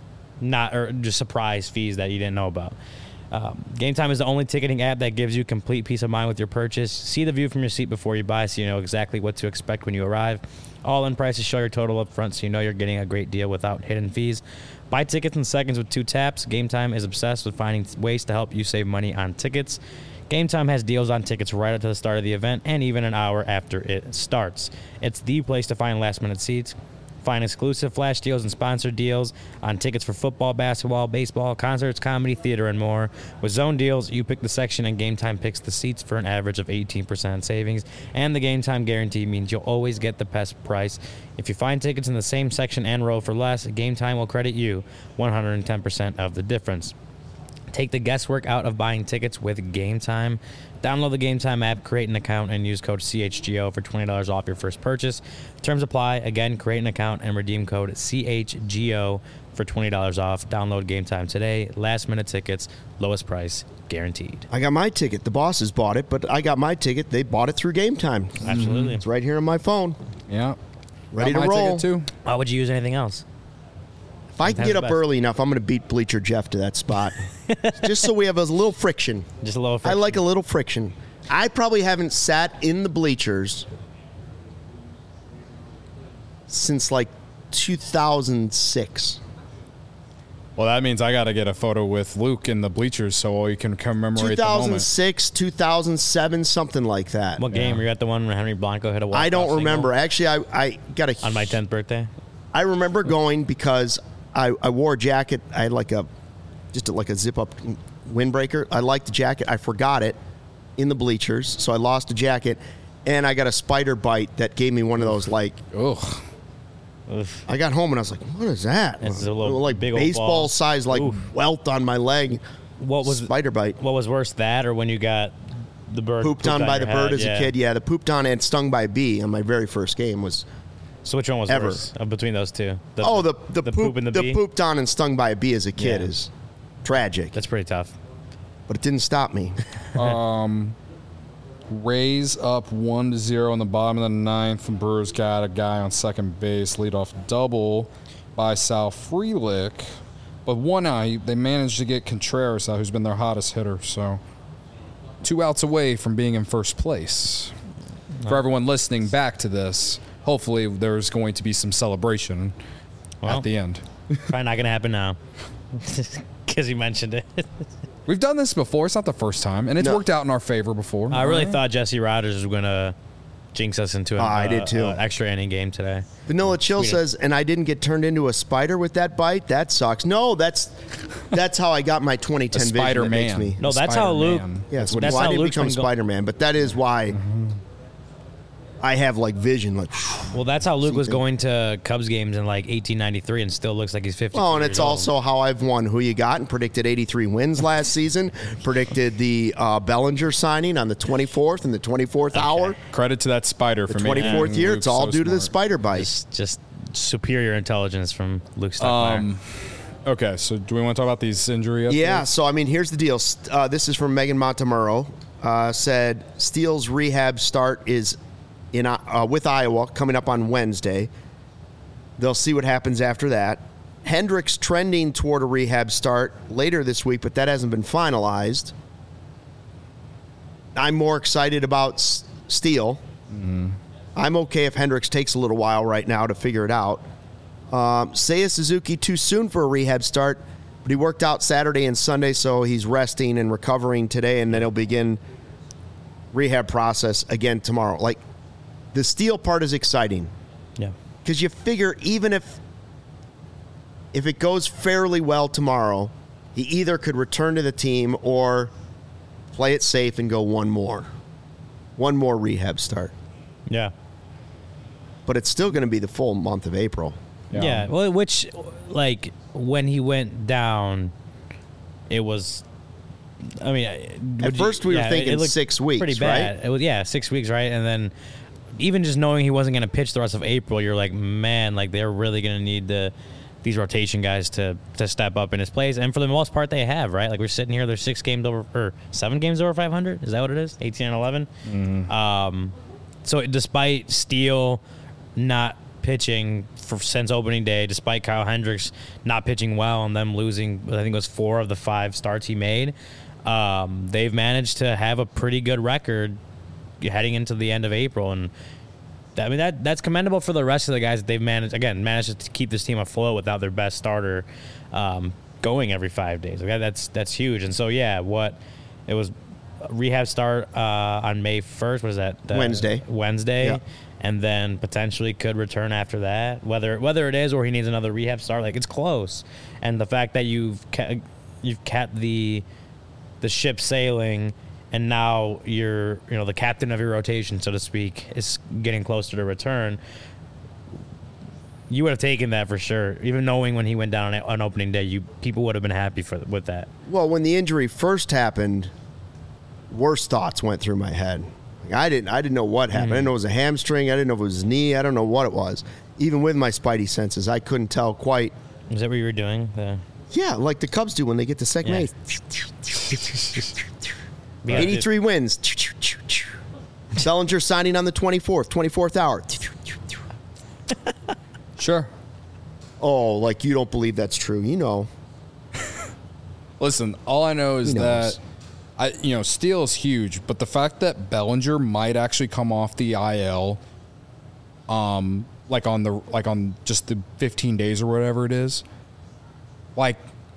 or just surprise fees that you didn't know about. Game Time is the only ticketing app that gives you complete peace of mind with your purchase. See the view from your seat before you buy so you know exactly what to expect when you arrive. All-in prices show your total up front so you know you're getting a great deal without hidden fees. Buy tickets in seconds with 2 taps. Game Time is obsessed with finding ways to help you save money on tickets. Game Time has deals on tickets right up to the start of the event and even an hour after it starts. It's the place to find last-minute seats. Find exclusive flash deals and sponsored deals on tickets for football, basketball, baseball, concerts, comedy, theater, and more. With zone deals, you pick the section and Game Time picks the seats for an average of 18% savings. And the Game Time guarantee means you'll always get the best price. If you find tickets in the same section and row for less, Game Time will credit you 110% of the difference. Take the guesswork out of buying tickets with Game Time. Download the Game Time app, create an account, and use code CHGO for $20 off your first purchase. Terms apply. Again, create an account and redeem code CHGO for $20 off. Download Game Time today. Last-minute tickets, lowest price, guaranteed. I got my ticket. The bosses bought it, but I got my ticket. They bought it through Game Time. Absolutely. It's right here on my phone. Yeah. Ready Got to my roll. ticket too. Why would you use anything else? If I can That's get the up best. early enough, I'm going to beat Bleacher Jeff to that spot. Just so we have a little friction. Just a little I friction. like a little friction. I probably haven't sat in the bleachers since like 2006. Well, that means I got to get a photo with Luke in the bleachers so we can commemorate the moment. 2006, 2007, something like that. What game? Were you at the one where Henry Blanco hit a walk-off I don't single? remember. Actually, I got a... On my 10th birthday? I remember going because I wore a jacket. I had like a zip-up windbreaker. I liked the jacket. I forgot it in the bleachers, so I lost the jacket, and I got a spider bite that gave me one of those like... Ugh. I got home and I was like, "What is that?" It's a little like big old baseball ball. size, like welt on my leg. What was spider bite? What was worse, that or when you got the bird Pooped on by the your bird head? as a kid. Yeah, the pooped on and stung by a bee on my very first game was. So which one was Ever. worse between those two? The poop and the bee? pooped on and stung by a bee as a kid Yeah. is tragic. That's pretty tough. But it didn't stop me. Rays up 1-0 in the bottom of the ninth. And Brewers got a guy on second base, leadoff double by Sal Frelick. But 1 out, they managed to get Contreras out, who's been their hottest hitter. So 2 outs away from being in first place. For everyone listening back to this, hopefully there's going to be some celebration Well. at the end. Probably not going to happen now. Because you mentioned it. We've done this before. It's not the first time, and it's No. worked out in our favor before. I really thought Jesse Rogers was going to jinx us into I did too. an extra inning game today. Vanilla Chill Tweeted. says, and I didn't get turned into a spider with that bite. That sucks. No, that's how I got my 2010 vision. That makes Spider-Man. me. No, that's how Luke. Spider-Man. Yes, That's well, I how didn't Luke's become been go- Spider-Man, but that is why I have like vision. Like, Well, that's how Luke was going to Cubs games in like 1893 and still looks like he's 50. oh, and it's also how I've won Who You Got and predicted 83 wins last season. Predicted the Bellinger signing on the 24th in the 24th hour. Credit to that spider The for 24th making year. Luke It's all so due to the smart. spider bite. just superior intelligence from Luke Stockmeyer. Okay, so do we want to talk about these injury updates? Yeah, so I mean, here's the deal. This is from Megan Montemurro. Said Steele's rehab start is in with Iowa coming up on Wednesday. They'll see what happens after that. Hendricks trending toward a rehab start later this week, but that hasn't been finalized. I'm more excited about Steele. I'm okay if Hendricks takes a little while right now to figure it out. Seiya Suzuki too soon for a rehab start, but he worked out Saturday and Sunday, so he's resting and recovering today, and then he'll begin rehab process again tomorrow. Like, the Steele part is exciting Yeah. because you figure even if it goes fairly well tomorrow, he either could return to the team or play it safe and go one more rehab start. Yeah. But it's still going to be the full month of April. Yeah. Well, which, like, when he went down, it was. I mean, At first we were thinking it looked 6 weeks, pretty bad. right? It was 6 weeks, right? And then even just knowing he wasn't going to pitch the rest of April, you're like, man, like they're really going to need these rotation guys to step up in his place. And for the most part, they have, right? Like we're sitting here, they're 6 games over or 7 games over 500. Is that what it is? 18 and 11. So despite Steele not pitching since opening day, despite Kyle Hendricks not pitching well and them losing, I think it was 4 of the 5 starts he made, they've managed to have a pretty good record heading into the end of April. And I mean, that's commendable for the rest of the guys that they've managed to keep this team afloat without their best starter going every 5 days. Like that's huge. And so, yeah, it was a rehab start on May 1st. What is that? Wednesday. Yeah. And then potentially could return after that. Whether it is or he needs another rehab start, like it's close. And the fact that you've kept the ship sailing, and now you're the captain of your rotation, so to speak, is getting closer to return. You would have taken that for sure, even knowing when he went down on opening day. People would have been happy with that. Well, when the injury first happened, worse thoughts went through my head. Like, I didn't know what happened. I didn't know it was a hamstring. I didn't know if it was his knee. I don't know what it was. Even with my spidey senses, I couldn't tell quite. Is that what you were doing? Yeah, like the Cubs do when they get to second Yeah. base. 83 wins. Bellinger signing on the 24th hour. Sure. Oh, like you don't believe that's true. You know. Listen, all I know is He knows. that Steele is huge, but the fact that Bellinger might actually come off the IL, like on just the 15 days or whatever it is, like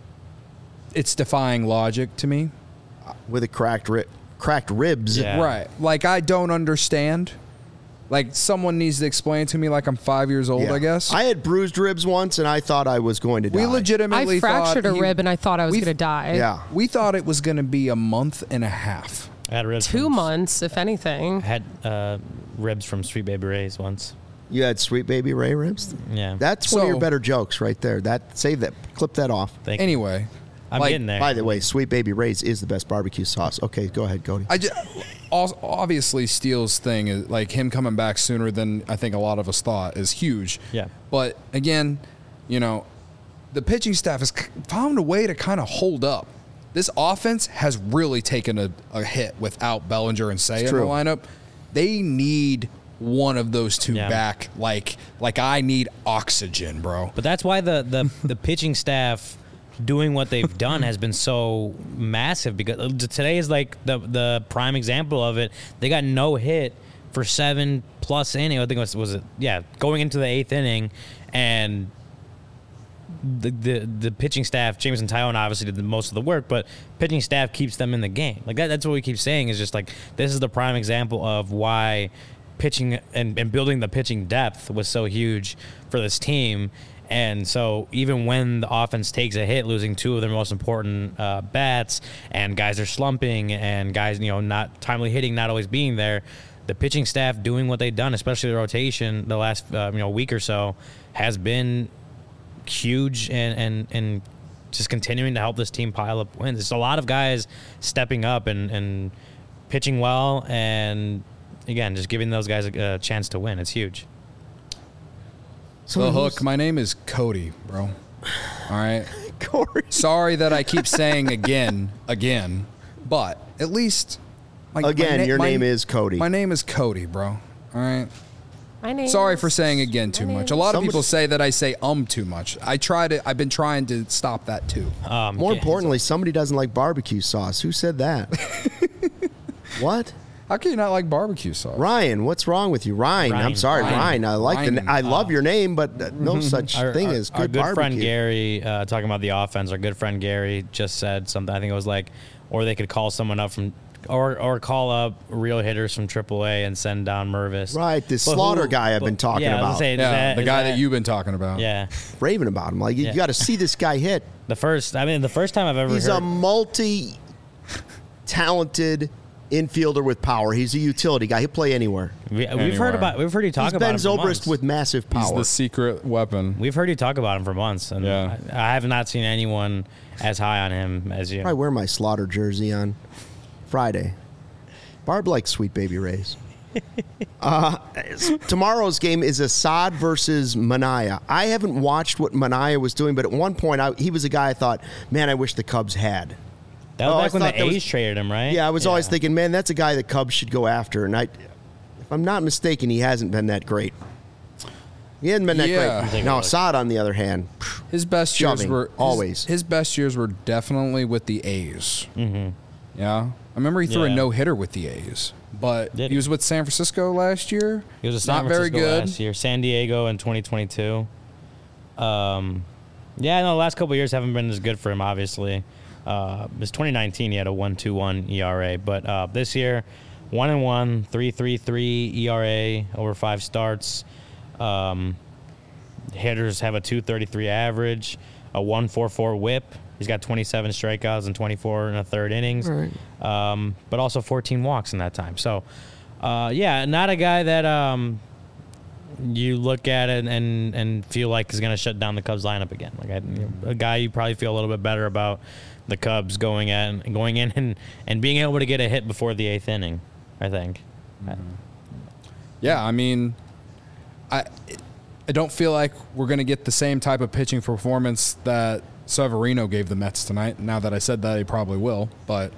it's defying logic to me. with a cracked ribs. Yeah. Right. Like, I don't understand. Like, someone needs to explain to me like I'm 5 years old, Yeah. I guess. I had bruised ribs once, and I thought I was going to die. We legitimately I fractured thought a rib and I thought I was going to die. Yeah. We thought it was going to be a month and a half. I had ribs 2 months, if anything. I had ribs from Sweet Baby Ray's once. You had Sweet Baby Ray ribs? Yeah. That's one of So- your better jokes right there. Save that. Clip that off. Thank you. Anyway, I'm like, getting there. By the way, Sweet Baby Ray's is the best barbecue sauce. Okay, go ahead, Cody. obviously Steele's thing is like him coming back sooner than I think a lot of us thought is huge. Yeah. But again, you know, the pitching staff has found a way to kind of hold up. This offense has really taken a hit without Bellinger and Say in the true. lineup. They need one of those two Yeah. back. Like I need oxygen, bro. But that's why the pitching staff doing what they've done has been so massive, because today is like the prime example of it. They got no hit for 7+ innings. I think going into the 8th inning, and the pitching staff, Jameson Tyone obviously did the most of the work, but pitching staff keeps them in the game. Like that's what we keep saying, is just like this is the prime example of why pitching and building the pitching depth was so huge for this team. And so even when the offense takes a hit, losing 2 of their most important bats, and guys are slumping, and guys, not timely hitting, not always being there, the pitching staff doing what they've done, especially the rotation the last week or so, has been huge and just continuing to help this team pile up wins. It's a lot of guys stepping up and pitching well, and again, just giving those guys a chance to win. It's huge. The hook. My name is Cody, bro. All right. Corey. Sorry that I keep saying again, but at least Again, your name is Cody. My name is Cody, bro. All right. My name Sorry is- for saying again too my much. name A lot of Somebody- people say that I say too much. I've been trying to stop that too. More importantly, somebody doesn't like barbecue sauce. Who said that? What? How can you not like barbecue sauce? Ryan, what's wrong with you? Ryan. I'm Ryan. sorry, Ryan. Ryan. I love your name, but no such thing as Our good good barbecue. friend Gary, talking about the offense, our good friend Gary just said something. I think it was like, or they could call someone up from, or call up real hitters from AAA and send down Mervis. Right, this But Slaughter who- guy I've been but- talking yeah, I was about. gonna say, is Yeah, the is guy that you've been talking about. Yeah. Raving about him. Like, you Yeah. got to see this guy hit. The first time I've ever He's heard. a multi-talented infielder with power. He's a utility guy. He'll play anywhere. We've heard Anywhere. we've heard you talk He's about Ben him for Zobrist months. with massive He's power. the secret weapon. We've heard you talk about him for months, and Yeah. I have not seen anyone as high on him as you. I wear my Slaughter jersey on Friday. Barb likes Sweet Baby Rays. Tomorrow's game is Assad versus Manaea. I haven't watched what Manaea was doing, but at one point he was a guy I thought, man, I wish the Cubs had. That was Oh, I back when thought the that was- A's traded him, right? Yeah, I was always thinking, man, that's a guy the Cubs should go after. And if I'm not mistaken, he hasn't been that great. He hasn't been that Yeah. great. Take a Now, look. Assad, on the other hand, His best years Shoving, were always. His best years were definitely with the A's. Mm-hmm. Yeah, I remember he threw a Yeah. no hitter with the A's, but Did he he? was with San Francisco last year. He was a San not very Francisco good. last year. San Diego in 2022. Yeah, no, the last couple of years haven't been as good for him, obviously. His 2019, he had a 1.21 ERA, but this year, 1-1, 3.33 ERA over 5 starts. Hitters have a 2.33 average, a 1.44 WHIP. He's got 27 strikeouts and 24 in the third innings, but also 14 walks in that time. So, yeah, not a guy that you look at it and feel like is going to shut down the Cubs lineup again. Like a guy you probably feel a little bit better about the Cubs going in and being able to get a hit before the 8th inning, I think. Yeah, I mean, I don't feel like we're going to get the same type of pitching performance that Severino gave the Mets tonight. Now that I said that, he probably will, but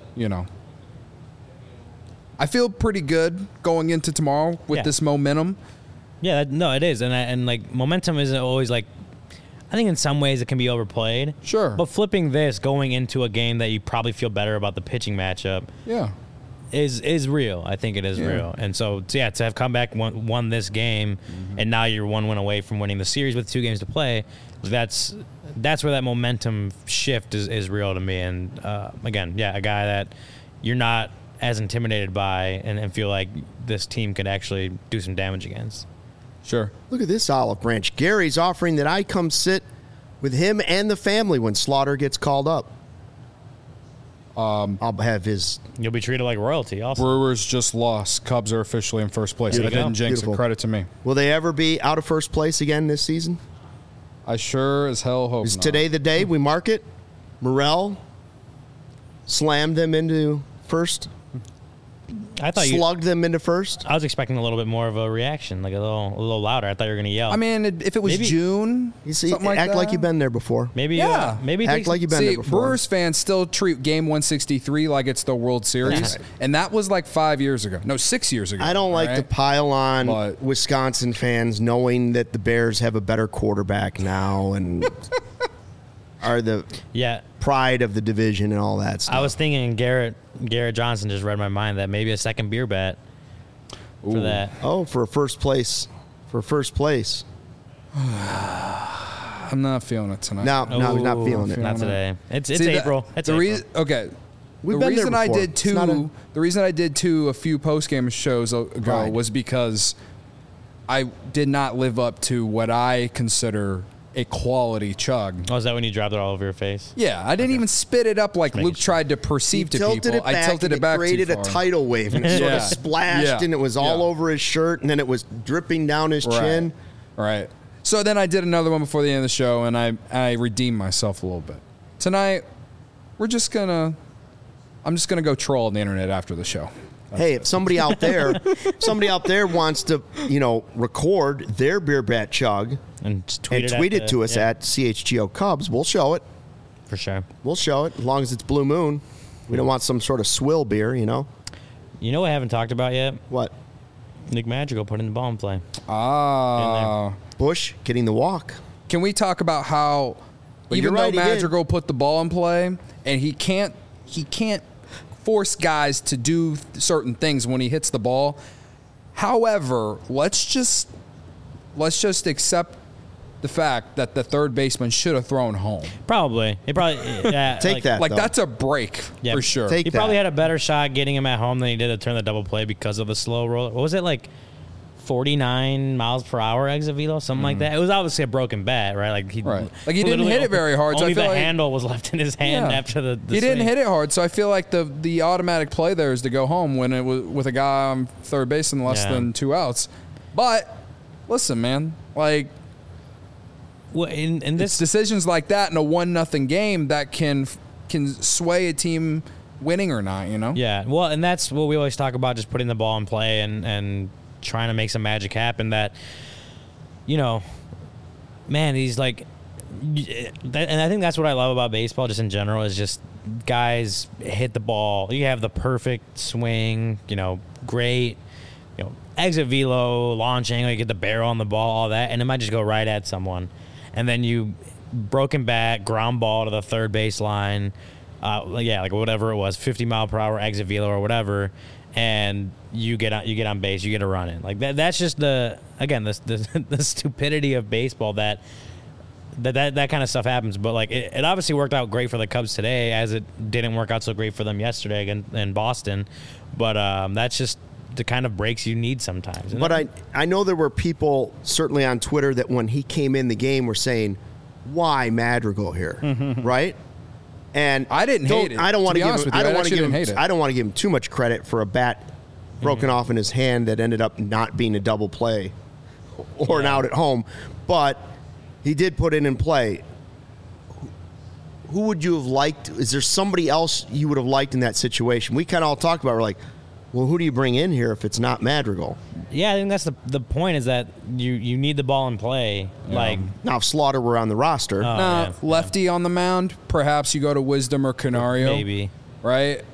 I feel pretty good going into tomorrow with Yeah. this momentum. Yeah, no, it is, and like momentum isn't always like. I think in some ways it can be overplayed. Sure. But flipping this, going into a game that you probably feel better about the pitching matchup, Yeah. is real. I think it is real. And so, to have come back, won this game, and now you're 1 win away from winning the series with 2 games to play, that's that's where that momentum shift is real to me. And again, a guy that you're not as intimidated by and feel like this team could actually do some damage against. Sure. Look at this olive branch. Gary's offering that I come sit with him and the family when Slaughter gets called up. I'll have his... You'll be treated like royalty also. Brewers just lost. Cubs are officially in first place. I didn't jinx Beautiful. it. Credit to me. Will they ever be out of first place again this season? I sure as hell hope Is not. today the day we mark it? Morel slammed them into first, I thought slugged them into first. I was expecting a little bit more of a reaction, like a little louder. I thought you were going to yell. I mean, if it was Maybe- June, You see, something like act that. like you've been there before. maybe Yeah. maybe Act take- like you've been See, there before. Brewers fans still treat Game 163 like it's the World Series, Yeah. and that was like 5 years ago. No, 6 years ago. I don't like to right? pile on But- Wisconsin fans knowing that the Bears have a better quarterback now and are the yeah. pride of the division and all that stuff. I was thinking Garrett Johnson just read my mind that maybe a second beer bet for that. Oh, for first place. For first place. I'm not feeling it tonight. No, he's not Ooh, feeling it. Not today. It's See, April. It's the April. okay. We've the been there reason I before. did It's not a- the reason I did two a few post game shows ago Right. was because I did not live up to what I consider a quality chug. Oh, is that when you dropped it all over your face? Yeah, I didn't even spit it up like making Luke sure. tried to perceive to tilted people. it back I tilted and it back created too a far. tidal wave and it sort of Yeah. splashed Yeah. and it was all Yeah. over his shirt and then it was dripping down his chin. Right. So then I did another one before the end of the show, and I redeemed myself a little bit. Tonight, I'm just gonna go troll on the internet after the show. Hey, if somebody out there wants to, record their beer bat chug And just tweet and it, tweet at it to us yeah, at CHGO Cubs, we'll show it. for sure. We'll show it as long as it's Blue Moon. We don't want some sort of swill beer, You know what I haven't talked about yet? What? Nick Madrigal put in the ball in play. Bush getting the walk. Can we talk about how But even you're though right, he did. Madrigal put the ball in play and he can't force guys to do certain things when he hits the ball. However, let's just accept the fact that the third baseman should have thrown home. Probably. He probably yeah, Take that. Like though. that's a break Yeah. for sure. Take He probably that. had a better shot getting him at home than he did to turn the double play because of the slow roll. What was it, like 49 miles per hour exit velo, something like that? It was obviously a broken bat, right? Like he Right. Like, he didn't literally hit it very hard, so I Only feel the like- handle was left in his hand Yeah. after the He didn't swing. hit it hard, so I feel like the automatic play there is to go home when it was with a guy on third base and less Yeah. than 2 outs. But listen, man, like Well, in it's this decisions like that in a 1-0 game that can sway a team winning or not. Yeah, well, and that's what we always talk about, just putting the ball in play and trying to make some magic happen. That, man, he's like, and I think that's what I love about baseball, just in general, is just guys hit the ball. You have the perfect swing, great, exit velo, launch angle, you get the barrel on the ball, all that, and it might just go right at someone. And then you broken bat, ground ball to the third base line, like whatever it was, 50 mile per hour exit velo or whatever, and you get on base, you get a run in. Like that's just the stupidity of baseball that kind of stuff happens. But like it obviously worked out great for the Cubs today, as it didn't work out so great for them yesterday in Boston. But that's just the kind of breaks you need sometimes. But I know there were people certainly on Twitter that when he came in the game were saying, "Why Madrigal here?" Right? And I didn't hate it. I don't want To to be give honest him. with you, I don't I want to actually give him. didn't hate it. I don't want to give him too much credit for a bat broken off in his hand that ended up not being a double play or an out at home, but he did put it in play. Who would you have liked? Is there somebody else you would have liked in that situation? We kind of all talked about. We're like, well, who do you bring in here if it's not Madrigal? Yeah, I think that's the point, is that you need the ball in play. Like, Now, if Slaughter were on the roster, yeah. lefty on the mound, perhaps you go to Wisdom or Canario. maybe. Right?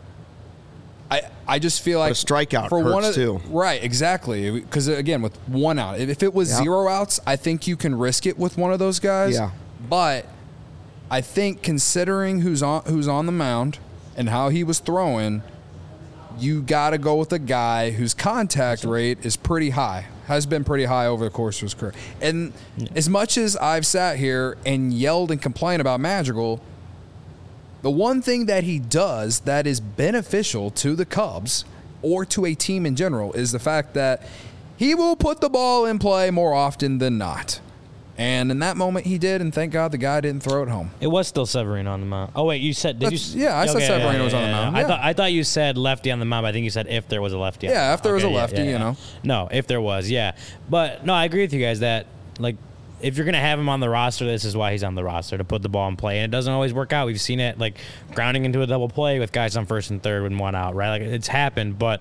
I just feel like a strikeout for one hurts, of, too. Right, exactly. Because again, with 1 out, if it was Yeah. 0 outs, I think you can risk it with one of those guys. Yeah. But I think considering who's on the mound and how he was throwing, you got to go with a guy whose contact rate is pretty high. has been pretty high over the course of his career. And as much as I've sat here and yelled and complained about Madrigal, the one thing that he does that is beneficial to the Cubs or to a team in general is the fact that he will put the ball in play more often than not. And in that moment, he did, and thank God the guy didn't throw it home. It was still Severino on the mound. Oh wait, you said did you? Yeah, I said Severino was on the mound. Yeah. I thought you said lefty on the mound. But I think you said if there was a lefty. Yeah, if there was a lefty, you know. No, if there was, yeah. But no, I agree with you guys that like if you're gonna have him on the roster, this is why he's on the roster, to put the ball in play, and it doesn't always work out. We've seen it like grounding into a double play with guys on first and third and one out, right? Like it's happened, but.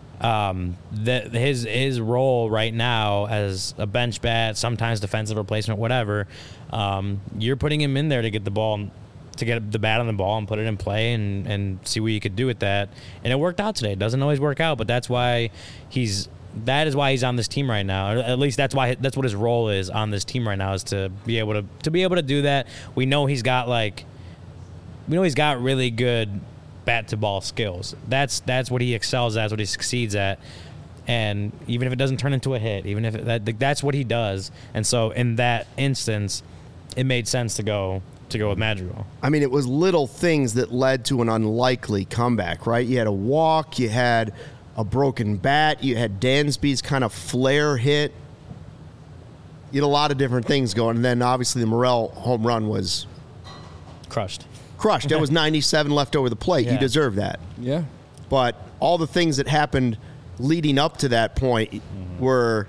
His role right now as a bench bat, sometimes defensive replacement, whatever, you're putting him in there to get the ball, to get the bat on the ball and put it in play and see what you could do with that. And it worked out today. It doesn't always work out, but that's why he's on this team right now. Or at least that's what his role is on this team right now, is to be able to do that. We know he's got really good bat to ball skills. That's what he excels at. That's what he succeeds at. And even if it doesn't turn into a hit, even if that's what he does. And so in that instance, it made sense to go with Madrigal. I mean, it was little things that led to an unlikely comeback, right? You had a walk, you had a broken bat, you had Dansby's kind of flare hit. You had a lot of different things going. And then obviously the Morel home run was crushed. That was 97 left over the plate. Yeah. You deserve that. Yeah. But all the things that happened leading up to that point were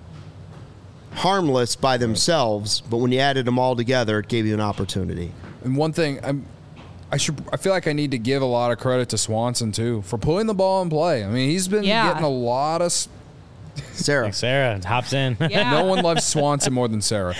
harmless by themselves, but when you added them all together, it gave you an opportunity. And one thing, I feel like I need to give a lot of credit to Swanson too for putting the ball in play. I mean, he's been getting a lot of. Sarah hops in. Yeah. No one loves Swanson more than Sarah.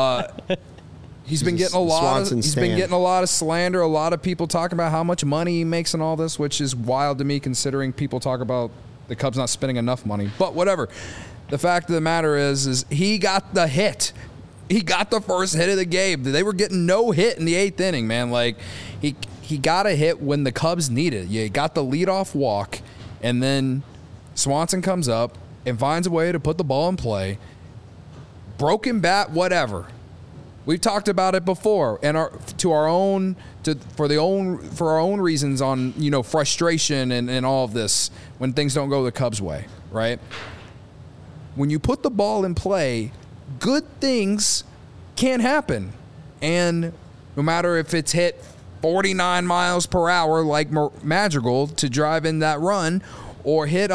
He's been getting a lot of slander, a lot of people talking about how much money he makes and all this, which is wild to me considering people talk about the Cubs not spending enough money. But whatever. The fact of the matter is he got the hit. He got the first hit of the game. They were getting no hit in the 8th inning, man. Like he got a hit when the Cubs needed it. You got the leadoff walk, and then Swanson comes up and finds a way to put the ball in play. Broken bat, whatever. We've talked about it before, and for our own reasons on frustration and all of this when things don't go the Cubs' way, right? When you put the ball in play, good things can happen, and no matter if it's hit 49 miles per hour like Madrigal to drive in that run, or hit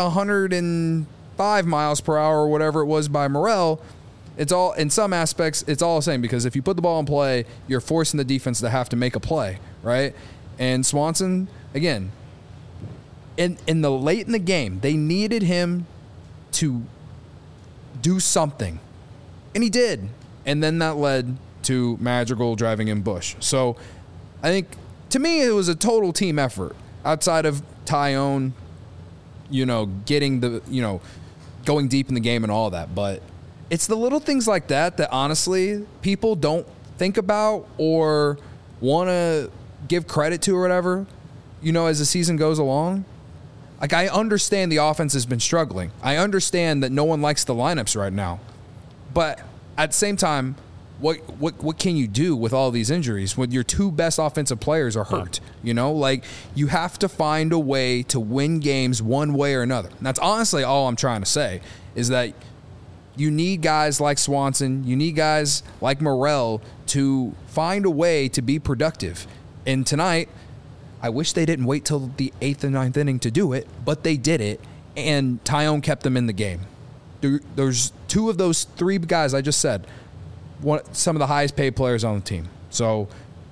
105 miles per hour or whatever it was by Morel. It's all, in some aspects, it's all the same, because if you put the ball in play, you're forcing the defense to have to make a play, right? And Swanson, again, in the late in the game, they needed him to do something, and he did. And then that led to Madrigal driving in Bush. So I think, to me, it was a total team effort outside of Tyone, getting going deep in the game and all that, but it's the little things like that honestly people don't think about or want to give credit to or whatever, as the season goes along. Like, I understand the offense has been struggling. I understand that no one likes the lineups right now. But at the same time, what can you do with all these injuries when your two best offensive players are hurt? Like, you have to find a way to win games one way or another. And that's honestly all I'm trying to say, is that you need guys like Swanson, you need guys like Morel to find a way to be productive. And tonight, I wish they didn't wait till the 8th and 9th inning to do it, but they did it, and Tyone kept them in the game. There's two of those three guys I just said, some of the highest paid players on the team. So,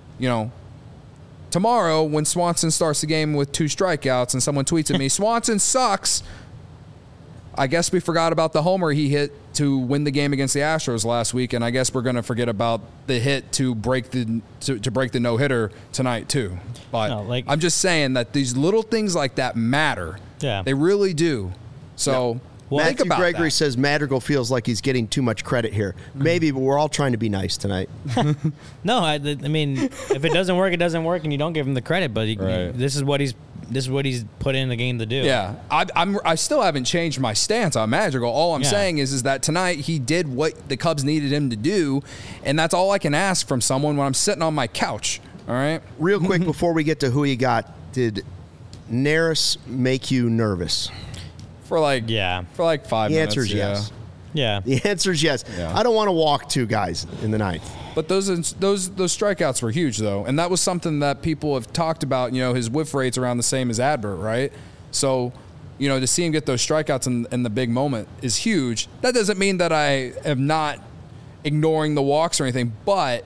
tomorrow when Swanson starts the game with 2 strikeouts and someone tweets at me, Swanson sucks, I guess we forgot about the homer he hit to win the game against the Astros last week, and I guess we're going to forget about the hit to break the no-hitter tonight too. But I'm just saying that these little things like that matter. Yeah, they really do. So think about Gregory that. says Madrigal feels like he's getting too much credit here. Maybe, but we're all trying to be nice tonight. No, I mean, if it doesn't work, it doesn't work, and you don't give him the credit. But this is what he's he's put in the game to do. Yeah, I still haven't changed my stance on Madrigal. All I'm saying is that tonight he did what the Cubs needed him to do, and that's all I can ask from someone when I'm sitting on my couch. All right. Real quick before we get to who you got, did Neris make you nervous? For like 5 The minutes. answer is yes. Yeah. The answer is yes. Yeah. I don't want to walk two guys in the ninth. But those strikeouts were huge, though, and that was something that people have talked about. You know, his whiff rate's around the same as Adbert, right? So, you know, to see him get those strikeouts in the big moment is huge. That doesn't mean that I am not ignoring the walks or anything, but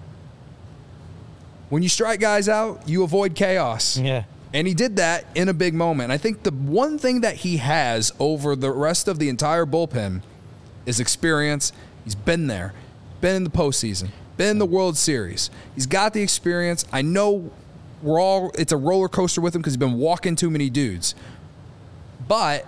when you strike guys out, you avoid chaos. Yeah. And he did that in a big moment. I think the one thing that he has over the rest of the entire bullpen is experience. He's been there, been in the postseason, been in the World Series. He's got the experience. I know it's a roller coaster with him because he's been walking too many dudes. But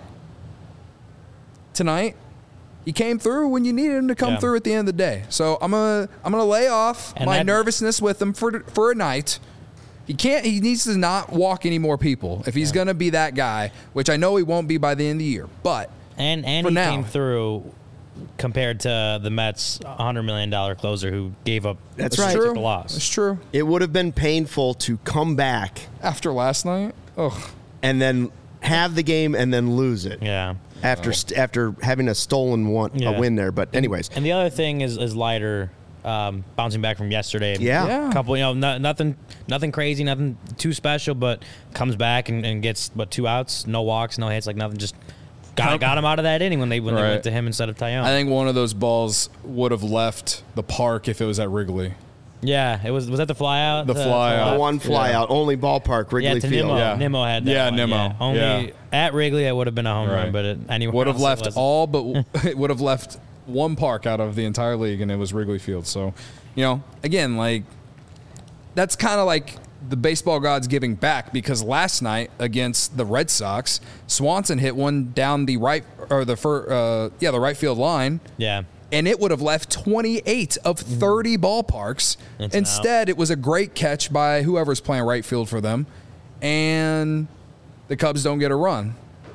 tonight, he came through when you needed him to come through at the end of the day. So I'm gonna lay off my nervousness with him for a night. He needs to not walk any more people if he's gonna be that guy, which I know he won't be by the end of the year. But and he came through compared to the Mets' $100 million closer who gave up. That's a right. took the loss. It's true. It would have been painful to come back After last night, and then have the game and then lose it. Yeah. After having a stolen a win there. But anyways, And the other thing is Leiter bouncing back from yesterday. Yeah. A couple, nothing crazy, nothing too special, but comes back and gets 2 outs, no walks, no hits, like nothing. Just got him out of that inning when they went to him instead of Tyone. I think one of those balls would have left the park if it was at Wrigley. Yeah, it was that the fly out? The fly out. the one fly out, only ballpark, Wrigley to Field. Nimmo. Yeah. Nimmo had that. Yeah, one, Nimmo. Only Yeah. at Wrigley, it would have been a home run, but anywhere would have else left it wasn't. all, but it would have left one park out of the entire league, and it was Wrigley Field. So, again, like that's kind of like the baseball gods giving back, because last night against the Red Sox, Swanson hit one down the right the right field line. Yeah. And it would have left 28 of 30 ballparks. It's an Instead, it was a great catch by whoever's playing right field for them. And the Cubs don't get a run,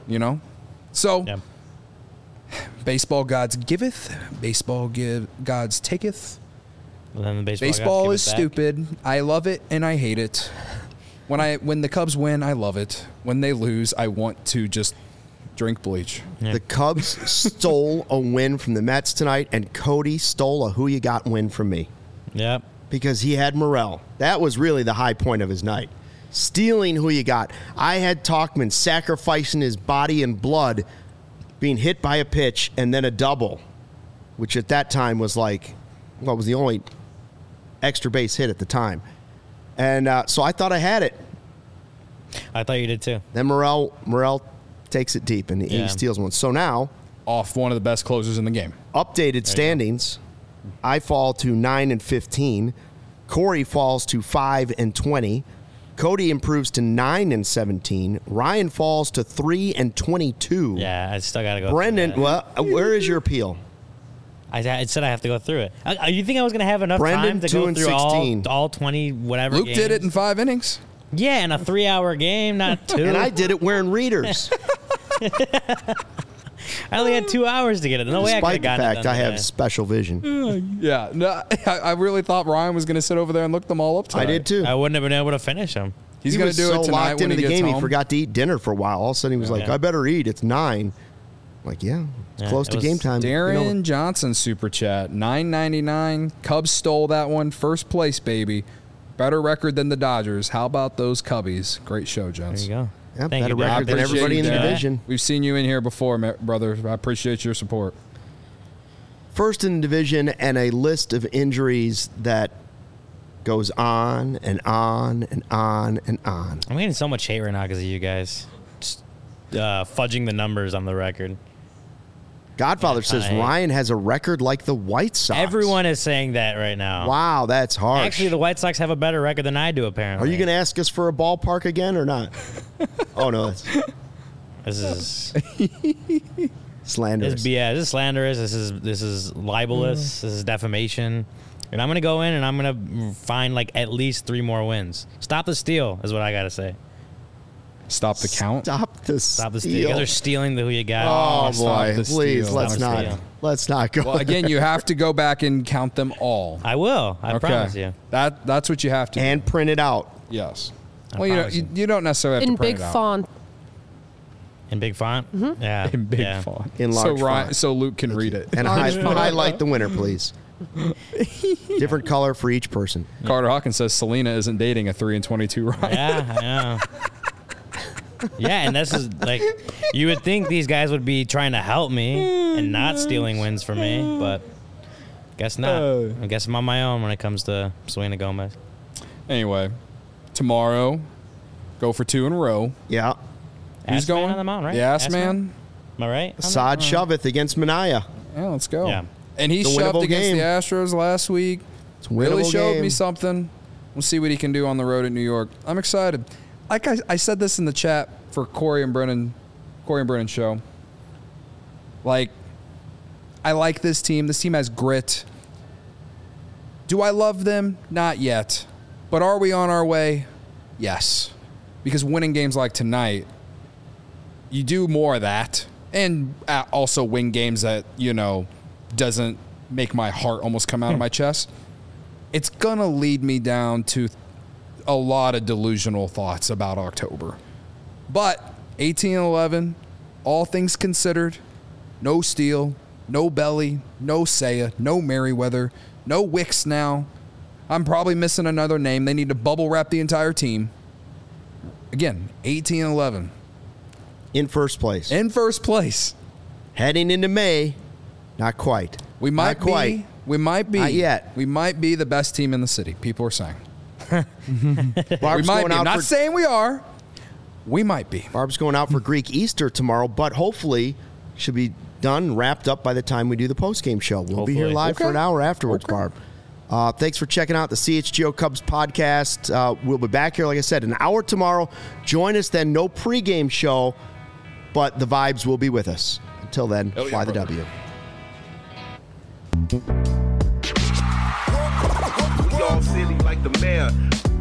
So, baseball gods giveth, baseball gods taketh. And then the Baseball is stupid. I love it and I hate it. When the Cubs win, I love it. When they lose, I want to just drink bleach. Yeah. The Cubs stole a win from the Mets tonight, and Cody stole a who you got win from me. Yep. Because he had Morel. That was really the high point of his night. Stealing who you got. I had Tauchman sacrificing his body and blood, being hit by a pitch, and then a double, which at that time was was the only extra base hit at the time. And so I thought I had it. I thought you did too. Then Morel takes it deep, and he steals one. So now, Off one of the best closers in the game. updated standings, I fall to 9-15. Corey falls to 5-20. Cody improves to 9-17. Ryan falls to 3-22. Yeah, I still got to go. Brendan, through that. well, where is your appeal? I said I have to go through it. You think I was going to have enough Brendan, time to go through 2-16. all 20 whatever Luke games? did it in 5 innings. Yeah, in a 3-hour game, not 2. And I did it wearing readers. I only had 2 hours to get it. No way I could have Despite the gotten it fact done I have today. special vision. Yeah, no, I really thought Ryan was going to sit over there and look them all up tonight. I did too. I wouldn't have been able to finish them. He's He going was to do so it tonight locked when into he the gets game, home. he forgot to eat dinner for a while. All of a sudden, he was like, Yeah. I better eat. It's 9. Like, yeah, it's Yeah, close it to was game time. Darren Johnson super chat, $9.99. Cubs stole that one. First place, baby. Better record than the Dodgers. How about those Cubbies? Great show, There gents. you go. Yeah, Thank better you, record than Dad. everybody in the Appreciate that. division. We've seen you in here before, brother. I appreciate your support. First in the division, and a list of injuries that goes on and on and on and on. I'm getting so much hate right now because of you guys. Just fudging the numbers on the record. Godfather says I hate- Ryan has a record like the White Sox. Everyone is saying that right now. Wow, that's harsh. Actually, the White Sox have a better record than I do, apparently. Are you going to ask us for a ballpark again or not? Oh, no, that's This is slanderous. This is slanderous. This is libelous. This is defamation. And I'm gonna go in and I'm gonna find like at least 3 more wins. Stop the steal is what I gotta say. Stop the count. Stop the Stop the steal. steal. You guys are stealing the who you got. Oh, Stop boy. the Please, steal. let's Stop the not. steal. Let's not go. Well, again, you have to go back and count them all. I will. I promise you. That's what you have to do. And print it out. Yes. Well, you don't necessarily have In to print big it out. font. In big font? Mm-hmm. Yeah. In big yeah. font. In large font. So Luke can read it. And Large font. highlight the winner, please. Different color for each person. Carter Hawkins says Selena isn't dating a 3-22 Ryan. Yeah, I know. Yeah, and this is like, you would think these guys would be trying to help me and not stealing wins for me, but guess not. I guess I'm on my own when it comes to Selena Gomez. Anyway, tomorrow, go for 2 in a row. Yeah. Who's Ass Man going? on the mound, right? The Ass Man. Am I right? Saad Shoveth against Manaya. Yeah, let's go. Yeah. And he It's a shoved winnable against game. the Astros last week. It's a Really winnable showed game. me something. We'll see what he can do on the road at New York. I'm excited. Like I said this in the chat for Corey and Brennan show. Like, I like this team. This team has grit. Do I love them? Not yet. But are we on our way? Yes. Because winning games like tonight, you do more of that. And also win games that, doesn't make my heart almost come out of my chest. It's going to lead me down to a lot of delusional thoughts about October. But 18-11, all things considered, no Steele, no Belly, no Saya, no Merriweather, no Wicks now. I'm probably missing another name. They need to bubble wrap the entire team. Again, 18-11. In first place. In first place. Heading into May, not quite. We might Not quite. be. We might be. Not yet. We might be the best team in the city. People are saying. Barb's We might going be. I'm out not for saying we are. We might be. Barb's going out for Greek Easter tomorrow, but hopefully should be done, wrapped up by the time we do the post-game show. We'll be here Hopefully. live for Okay. an hour afterwards, Okay. Barb. Thanks for checking out the CHGO Cubs podcast. We'll be back here, like I said, an hour tomorrow. Join us then. No pregame show, but the vibes will be with us. Until then, fly the W. We all silly like the mayor.